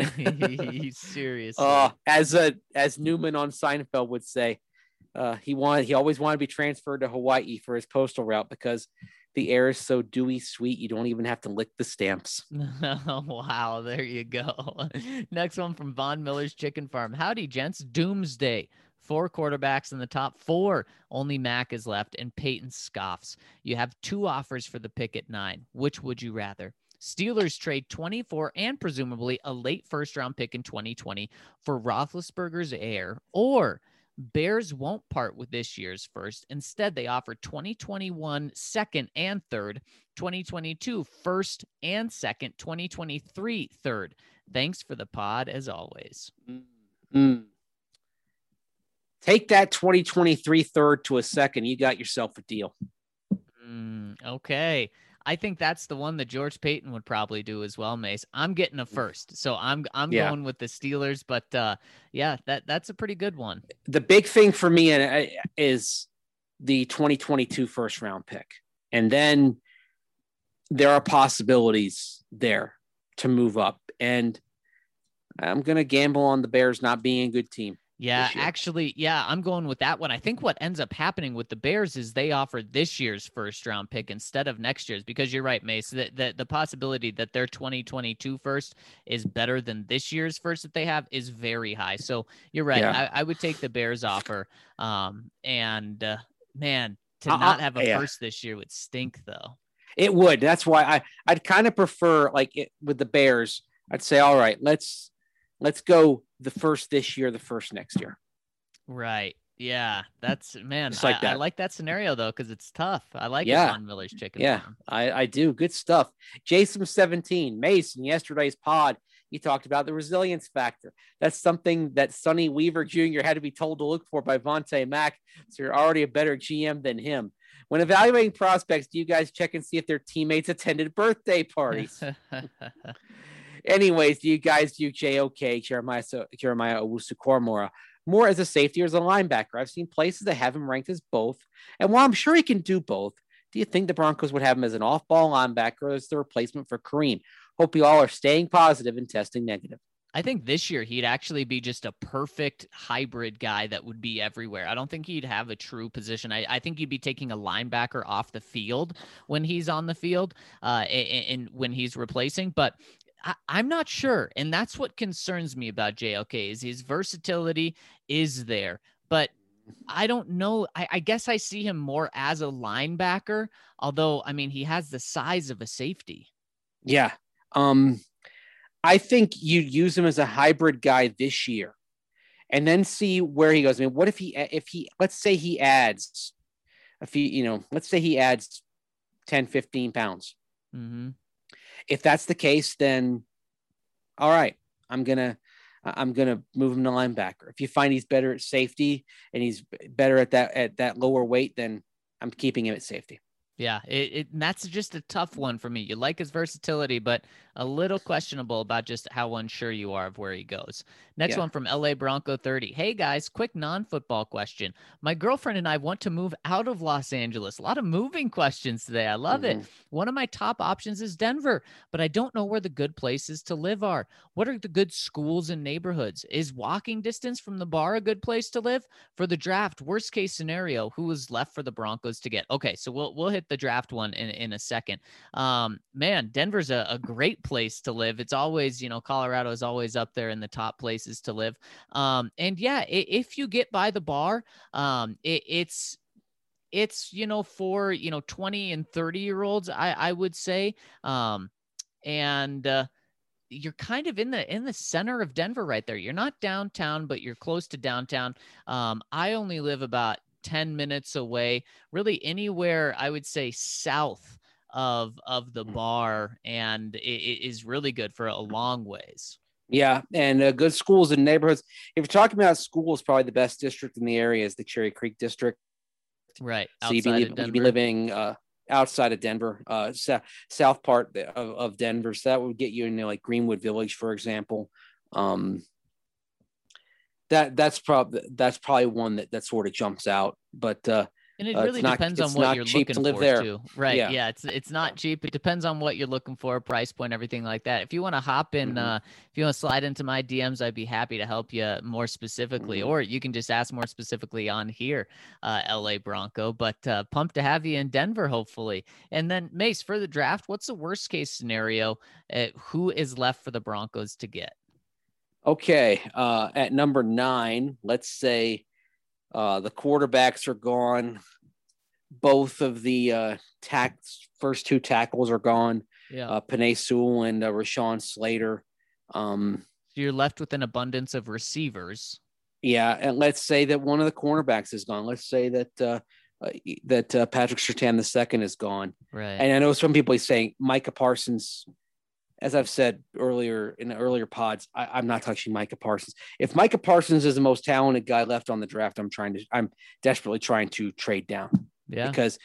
Seriously. As Newman on Seinfeld would say, he always wanted to be transferred to Hawaii for his postal route because the air is so dewy sweet you don't even have to lick the stamps. Wow, there you go. Next one from Von Miller's Chicken Farm. Howdy, gents. Doomsday. 4 quarterbacks in the top 4. Only Mac is left, and Peyton scoffs. You have 2 offers for the pick at 9. Which would you rather? Steelers trade 24 and presumably a late first-round pick in 2020 for Roethlisberger's heir, or Bears won't part with this year's first. Instead, they offer 2021 second and third, 2022 first and second, 2023 third. Thanks for the pod, as always. Mm-hmm. Take that 2023 third to a second. You got yourself a deal. Okay. I think that's the one that George Payton would probably do as well, Mace. I'm getting a first. So I'm going with the Steelers, but that's a pretty good one. The big thing for me is the 2022 first round pick. And then there are possibilities there to move up. And I'm going to gamble on the Bears not being a good team. Yeah, actually, I'm going with that one. I think what ends up happening with the Bears is they offered this year's first round pick instead of next year's, because you're right, Mace, the possibility that their 2022 first is better than this year's first that they have is very high. So you're right. Yeah. I would take the Bears offer. Man, to not have a first this year would stink though. It would. That's why I'd kind of prefer with the Bears, I'd say, all right, let's go the first this year, the first next year. Right. Yeah. That's, man, like I like that scenario though, because it's tough. I like it on Miller's Chicken Farm. I do. Good stuff. Jason 17, Mason, yesterday's pod, he talked about the resilience factor. That's something that Sonny Weaver Jr. had to be told to look for by Vontae Mack. So you're already a better GM than him. When evaluating prospects, do you guys check and see if their teammates attended birthday parties? Anyways, do you guys do JOK, Jeremiah Owusu-Koramoah, more as a safety or as a linebacker? I've seen places that have him ranked as both. And while I'm sure he can do both, do you think the Broncos would have him as an off-ball linebacker or as the replacement for Kareem? Hope you all are staying positive and testing negative. I think this year he'd actually be just a perfect hybrid guy that would be everywhere. I don't think he'd have a true position. I think he'd be taking a linebacker off the field when he's on the field and when he's replacing. But I'm not sure. And that's what concerns me about JOK is his versatility is there, but I don't know. I guess I see him more as a linebacker, although, I mean, he has the size of a safety. Yeah. I think you'd use him as a hybrid guy this year and then see where he goes. I mean, what if he, let's say he adds let's say he adds 10, 15 pounds. Mm-hmm. If that's the case, then all right, I'm going to move him to linebacker. If you find he's better at safety and he's better at that lower weight, then I'm keeping him at safety. Yeah, and that's just a tough one for me. You like his versatility, but a little questionable about just how unsure you are of where he goes. Next one from LA Bronco 30. Hey guys, quick non-football question. My girlfriend and I want to move out of Los Angeles. A lot of moving questions today. I love it. One of my top options is Denver, but I don't know where the good places to live are. What are the good schools and neighborhoods? Is walking distance from the bar a good place to live? For the draft, worst case scenario, who is left for the Broncos to get? Okay, so we'll hit the draft one in a second. Man, Denver's a great place to live. It's always, Colorado is always up there in the top places to live. And yeah, if you get by the bar, it's for 20 and 30-year-olds, I would say. And you're kind of in the center of Denver right there. You're not downtown, but you're close to downtown. I only live about 10 minutes away, really anywhere I would say south of the bar, and it is really good for a long ways. Yeah, and good schools and neighborhoods. If you're talking about schools, probably the best district in the area is the Cherry Creek district. Right. So you'd be living outside of Denver, south part of Denver. So that would get you into like Greenwood Village, for example. That's probably one that sort of jumps out, but and it really depends on what you're looking for there. Too. Right. Yeah. It's not cheap. It depends on what you're looking for, price point, everything like that. If you want to hop in, if you want to slide into my DMs, I'd be happy to help you more specifically, or you can just ask more specifically on here, LA Bronco, but pumped to have you in Denver, hopefully. And then Mace, for the draft, what's the worst case scenario? Who is left for the Broncos to get? Okay. At number 9, let's say the quarterbacks are gone. Both of the first 2 tackles are gone. Yeah. Penei Sewell and Rashawn Slater. So you're left with an abundance of receivers. Yeah, and let's say that one of the cornerbacks is gone. Let's say that Patrick Surtain II is gone. Right. And I know some people are saying Micah Parsons. As I've said earlier in the earlier pods, I'm not touching Micah Parsons. If Micah Parsons is the most talented guy left on the draft, I'm desperately trying to trade down. Yeah. Because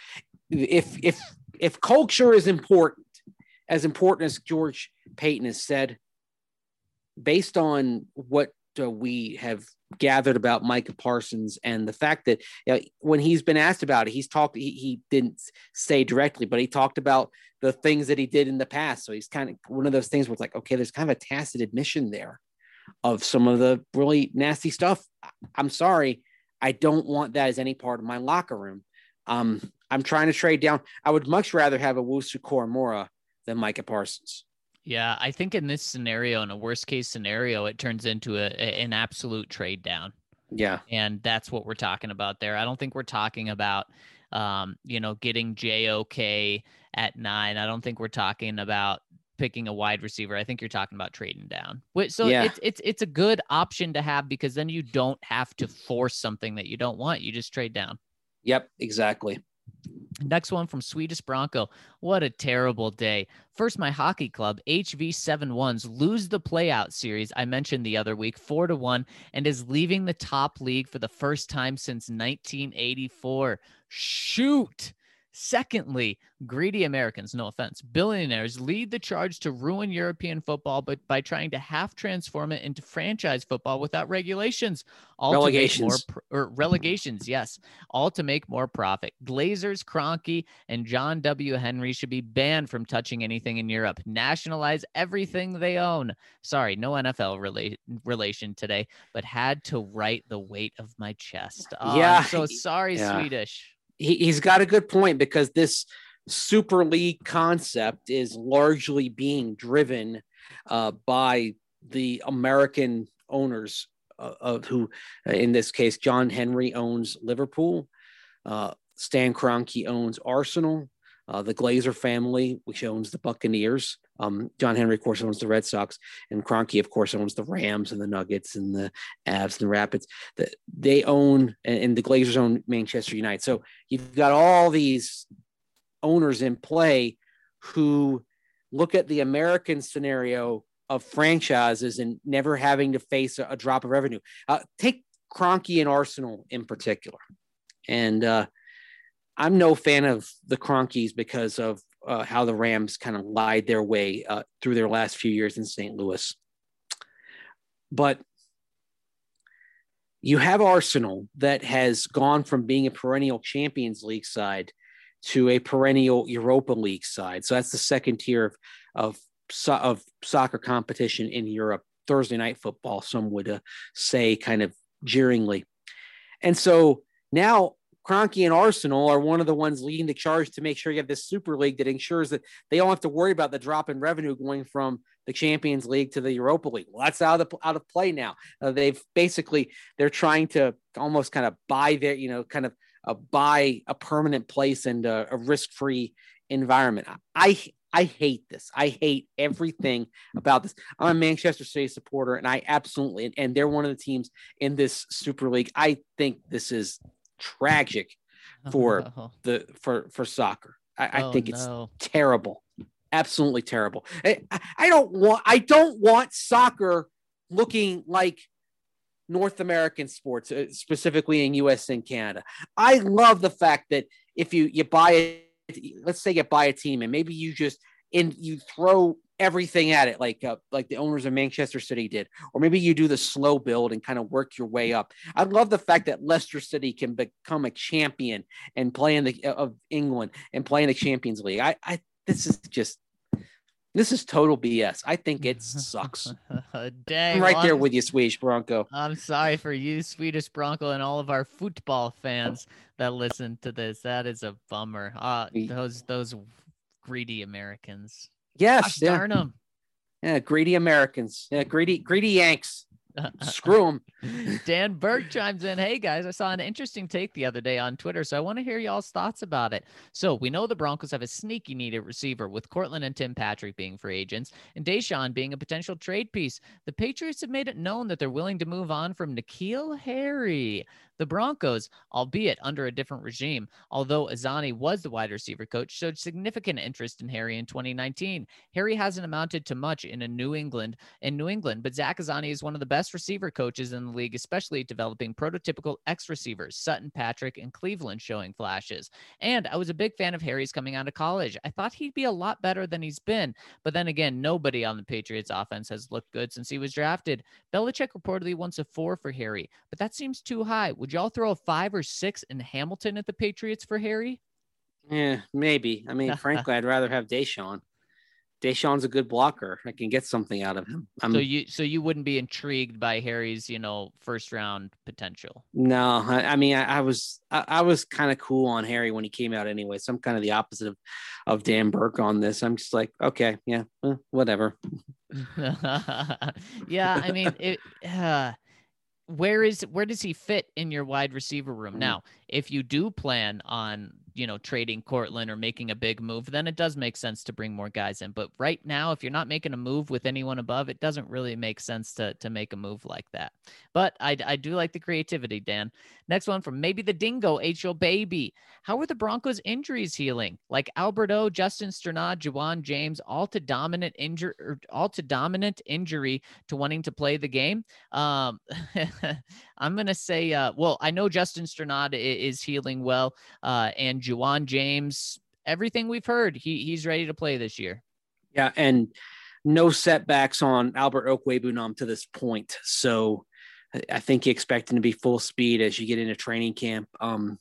if culture is important as George Payton has said, based on what we have gathered about Micah Parsons and the fact that when he's been asked about it, he didn't say directly, but he talked about the things that he did in the past. So he's kind of one of those things where it's like, okay, there's kind of a tacit admission there of some of the really nasty stuff. I'm sorry. I don't want that as any part of my locker room. I'm trying to trade down. I would much rather have a Wusu Koromora than Micah Parsons. Yeah, I think in this scenario, in a worst case scenario, it turns into an absolute trade down. Yeah. And that's what we're talking about there. I don't think we're talking about, getting JOK at 9. I don't think we're talking about picking a wide receiver. I think you're talking about trading down. So yeah. It's a good option to have, because then you don't have to force something that you don't want. You just trade down. Yep, exactly. Next one from Swedish Bronco. What a terrible day. First, my hockey club, HV71s, lose the playout series I mentioned the other week, 4-1, and is leaving the top league for the first time since 1984. Shoot. Secondly, greedy Americans, no offense, billionaires lead the charge to ruin European football, but by trying to half transform it into franchise football without regulations, relegations, yes, all to make more profit. Glazers, Kroenke, and John W. Henry should be banned from touching anything in Europe. Nationalize everything they own. Sorry, no NFL relation today, but had to write the weight of my chest. I'm so sorry, Swedish. He's got a good point, because this Super League concept is largely being driven by the American owners of who, in this case, John Henry owns Liverpool. Stan Kroenke owns Arsenal. The Glazer family, which owns the Buccaneers. John Henry, of course, owns the Red Sox, and Kroenke, of course, owns the Rams and the Nuggets and the Avs and the Rapids. They own, and the Glazers own Manchester United. So you've got all these owners in play who look at the American scenario of franchises and never having to face a drop of revenue. Take Kroenke and Arsenal in particular. And I'm no fan of the Kroenkes because of how the Rams kind of lied their way through their last few years in St. Louis. But you have Arsenal that has gone from being a perennial Champions League side to a perennial Europa League side. So that's the second tier of soccer competition in Europe. Thursday night football, some would say kind of jeeringly. And so now Kroenke and Arsenal are one of the ones leading the charge to make sure you have this Super League that ensures that they don't have to worry about the drop in revenue going from the Champions League to the Europa League. Well, that's out of play now. They're trying to almost kind of buy their, buy a permanent place and a risk-free environment. I hate this. I hate everything about this. I'm a Manchester City supporter, and I absolutely, and they're one of the teams in this Super League. I think this is tragic for soccer. I think it's terrible. Absolutely terrible. I don't want soccer looking like North American sports, specifically in US and Canada. I love the fact that if you buy let's say you buy a team and maybe you throw everything at it like the owners of Manchester City did, or maybe you do the slow build and kind of work your way up. I love the fact that Leicester City can become a champion and play in of England and play in the Champions League. This is total BS. I think it sucks. Dang, I'm there with you, Swedish Bronco. I'm sorry for you, Swedish Bronco, and all of our football fans that listen to this. That is a bummer. Those greedy Americans. Yes, darn them. Yeah, greedy Americans. Yeah, greedy Yanks. Screw them. Dan Burke chimes in. Hey guys, I saw an interesting take the other day on Twitter, so I want to hear y'all's thoughts about it. So we know the Broncos have a sneaky needed receiver with Cortland and Tim Patrick being free agents and Deshaun being a potential trade piece. The Patriots have made it known that they're willing to move on from N'Keal Harry. The Broncos, albeit under a different regime, although Azzanni was the wide receiver coach, showed significant interest in Harry in 2019. Harry hasn't amounted to much in New England, but Zach Azzanni is one of the best receiver coaches in the league, especially developing prototypical X receivers, Sutton, Patrick, and Cleveland showing flashes. And I was a big fan of Harry's coming out of college. I thought he'd be a lot better than he's been, but then again, nobody on the Patriots offense has looked good since he was drafted. Belichick reportedly wants a 4 for Harry, but that seems too high. Would y'all throw a 5 or 6 in Hamilton at the Patriots for Harry? Yeah, maybe. I mean, frankly, I'd rather have Deshaun. Deshaun's a good blocker. I can get something out of him. So you wouldn't be intrigued by Harry's, first round potential? No, I mean, I was kind of cool on Harry when he came out anyway. So I'm kind of the opposite of Dan Burke on this. I'm just like, okay, yeah, whatever. Yeah, I mean, where does he fit in your wide receiver room? Now, if you do plan on, trading Cortland or making a big move, then it does make sense to bring more guys in. But right now, if you're not making a move with anyone above, it doesn't really make sense to make a move like that. But I do like the creativity, Dan. Next one from maybe the Dingo, H.O. Baby. How are the Broncos injuries healing? Like Alberto, Justin Strnad, Juwan James, all to dominant injury to wanting to play the game. I'm going to say, I know Justin Strnad is healing well, and Juwan James, everything we've heard, he's ready to play this year. Yeah, and no setbacks on Albert Okwuegbunam to this point. So I think you expect him to be full speed as you get into training camp.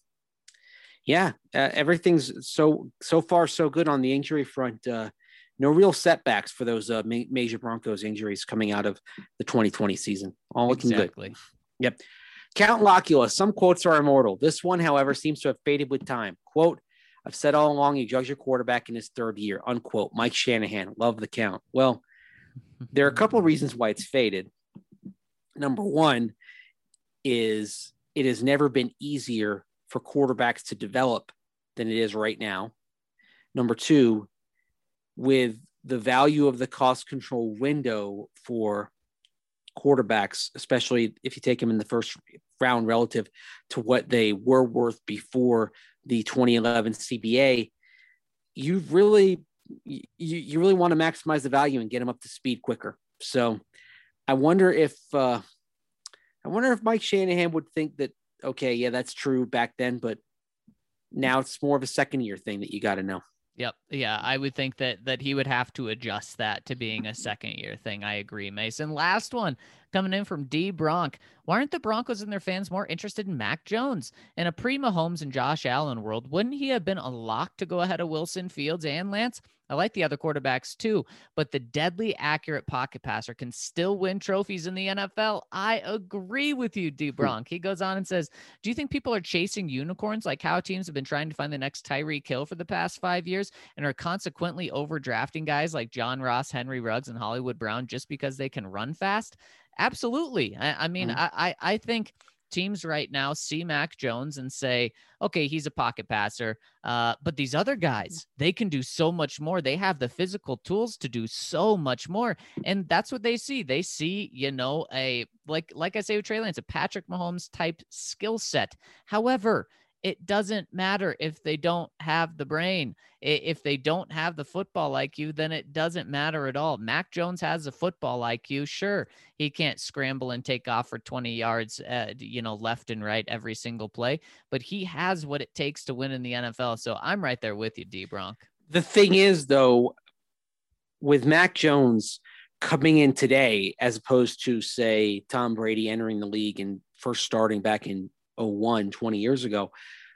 Everything's so far so good on the injury front. No real setbacks for those major Broncos injuries coming out of the 2020 season. All looking good. Yep. Count Locula. Some quotes are immortal. This one, however, seems to have faded with time. Quote, I've said all along you judge your quarterback in his third year. Unquote. Mike Shanahan. Love the count. Well, There are a couple of reasons why it's faded. Number one is it has never been easier for quarterbacks to develop than it is right now. Number two, with the value of the cost control window for quarterbacks, especially if you take them in the first round relative to what they were worth before the 2011 CBA, you really want to maximize the value and get them up to speed quicker. So I wonder if Mike Shanahan would think that, okay, yeah, that's true back then, but now it's more of a second year thing that you got to know. Yep. Yeah, I would think that he would have to adjust that to being a second year thing. I agree, Mason. Last one coming in from D Bronk. Why aren't the Broncos and their fans more interested in Mac Jones? In a pre-Mahomes and Josh Allen world, wouldn't he have been a lock to go ahead of Wilson, Fields, and Lance? I like the other quarterbacks too, but the deadly accurate pocket passer can still win trophies in the NFL. I agree with you, D Bronk. He goes on and says, do you think people are chasing unicorns like how teams have been trying to find the next Tyreek Hill for the past 5 years and are consequently overdrafting guys like John Ross, Henry Ruggs, and Hollywood Brown just because they can run fast? Absolutely. I mean, I think teams right now see Mac Jones and say, okay, he's a pocket passer, but these other guys, they can do so much more. They have the physical tools to do so much more. And that's what they see. They see, like I say with Trey Lance, a Patrick Mahomes type skill set. However, it doesn't matter if they don't have the brain. If they don't have the football IQ, then it doesn't matter at all. Mac Jones has a football IQ. Sure, he can't scramble and take off for 20 yards, left and right every single play, but he has what it takes to win in the NFL. So I'm right there with you, D Bronk. The thing is, though, with Mac Jones coming in today, as opposed to, say, Tom Brady entering the league and first starting back in 20 years ago,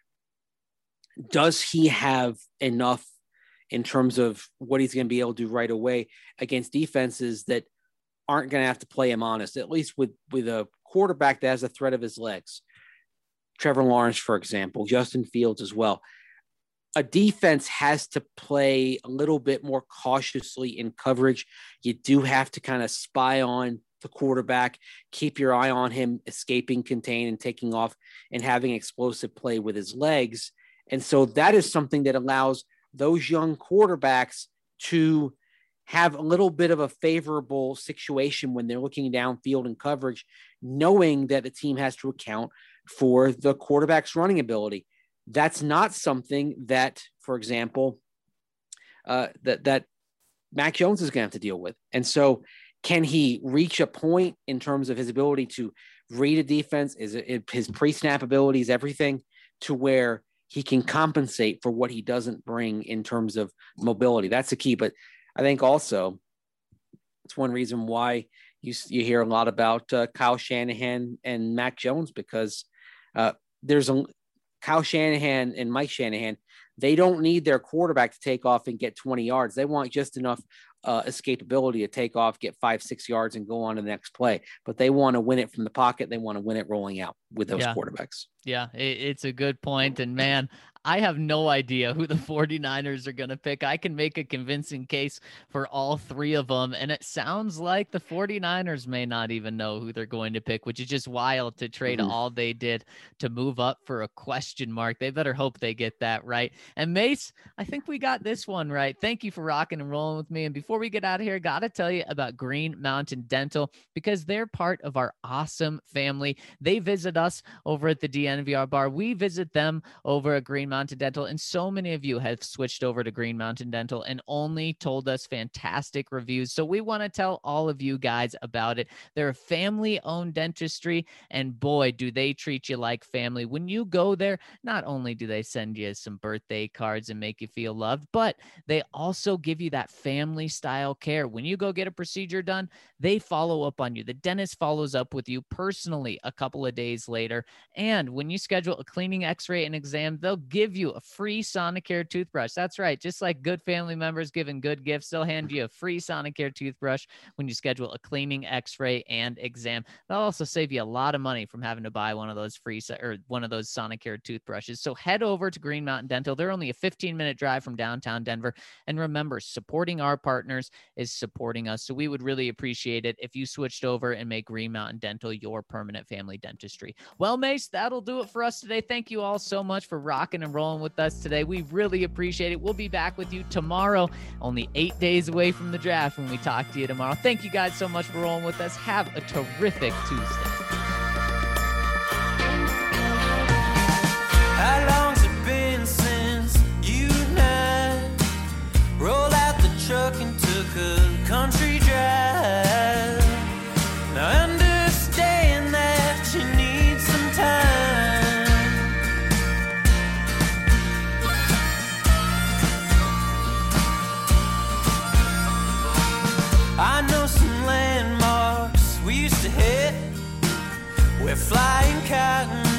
does he have enough in terms of what he's going to be able to do right away against defenses that aren't going to have to play him honest, at least with a quarterback that has a threat of his legs? Trevor Lawrence, for example, Justin Fields as well. A defense has to play a little bit more cautiously in coverage. You do have to kind of spy on the quarterback, keep your eye on him escaping, contain, and taking off and having explosive play with his legs. And so that is something that allows those young quarterbacks to have a little bit of a favorable situation when they're looking downfield in coverage, knowing that the team has to account for the quarterback's running ability. That's not something that, for example, that Mac Jones is going to have to deal with. And so can he reach a point in terms of his ability to read a defense, his pre-snap abilities, everything, to where he can compensate for what he doesn't bring in terms of mobility? That's the key. But I think also it's one reason why you hear a lot about Kyle Shanahan and Mac Jones, because there's Kyle Shanahan and Mike Shanahan. They don't need their quarterback to take off and get 20 yards. They want just enough escapability to take off, get 5-6 yards, and go on to the next play. But they want to win it from the pocket. They want to win it rolling out with those quarterbacks. Yeah, it's a good point. And man, I have no idea who the 49ers are going to pick. I can make a convincing case for all three of them. And it sounds like the 49ers may not even know who they're going to pick, which is just wild to trade all they did to move up for a question mark. They better hope they get that right. And Mace, I think we got this one right. Thank you for rocking and rolling with me. And before we get out of here, got to tell you about Green Mountain Dental, because they're part of our awesome family. They visit us over at the DNVR bar. We visit them over at Green Mountain Dental, and so many of you have switched over to Green Mountain Dental and only told us fantastic reviews. So we want to tell all of you guys about it. They're a family-owned dentistry, and boy, do they treat you like family. When you go there, not only do they send you some birthday cards and make you feel loved, but they also give you that family-style care. When you go get a procedure done, they follow up on you. The dentist follows up with you personally a couple of days later, and when you schedule a cleaning, x-ray, and exam, they'll give give you a free Sonicare toothbrush. That's right. Just like good family members giving good gifts, they'll hand you a free Sonicare toothbrush when you schedule a cleaning, x-ray, and exam. They'll also save you a lot of money from having to buy one of those one of those Sonicare toothbrushes. So head over to Green Mountain Dental. They're only a 15-minute drive from downtown Denver. And remember, supporting our partners is supporting us. So we would really appreciate it if you switched over and make Green Mountain Dental your permanent family dentistry. Well, Mace, that'll do it for us today. Thank you all so much for rocking and rolling with us today. We really appreciate it. We'll be back with you tomorrow, only 8 days away from the draft when we talk to you tomorrow. Thank you guys so much for rolling with us. Have a terrific Tuesday. How long's it been since you and I rolled out the truck and took a country drive? Now I understand that you need some time. I know some landmarks we used to hit where flying cotton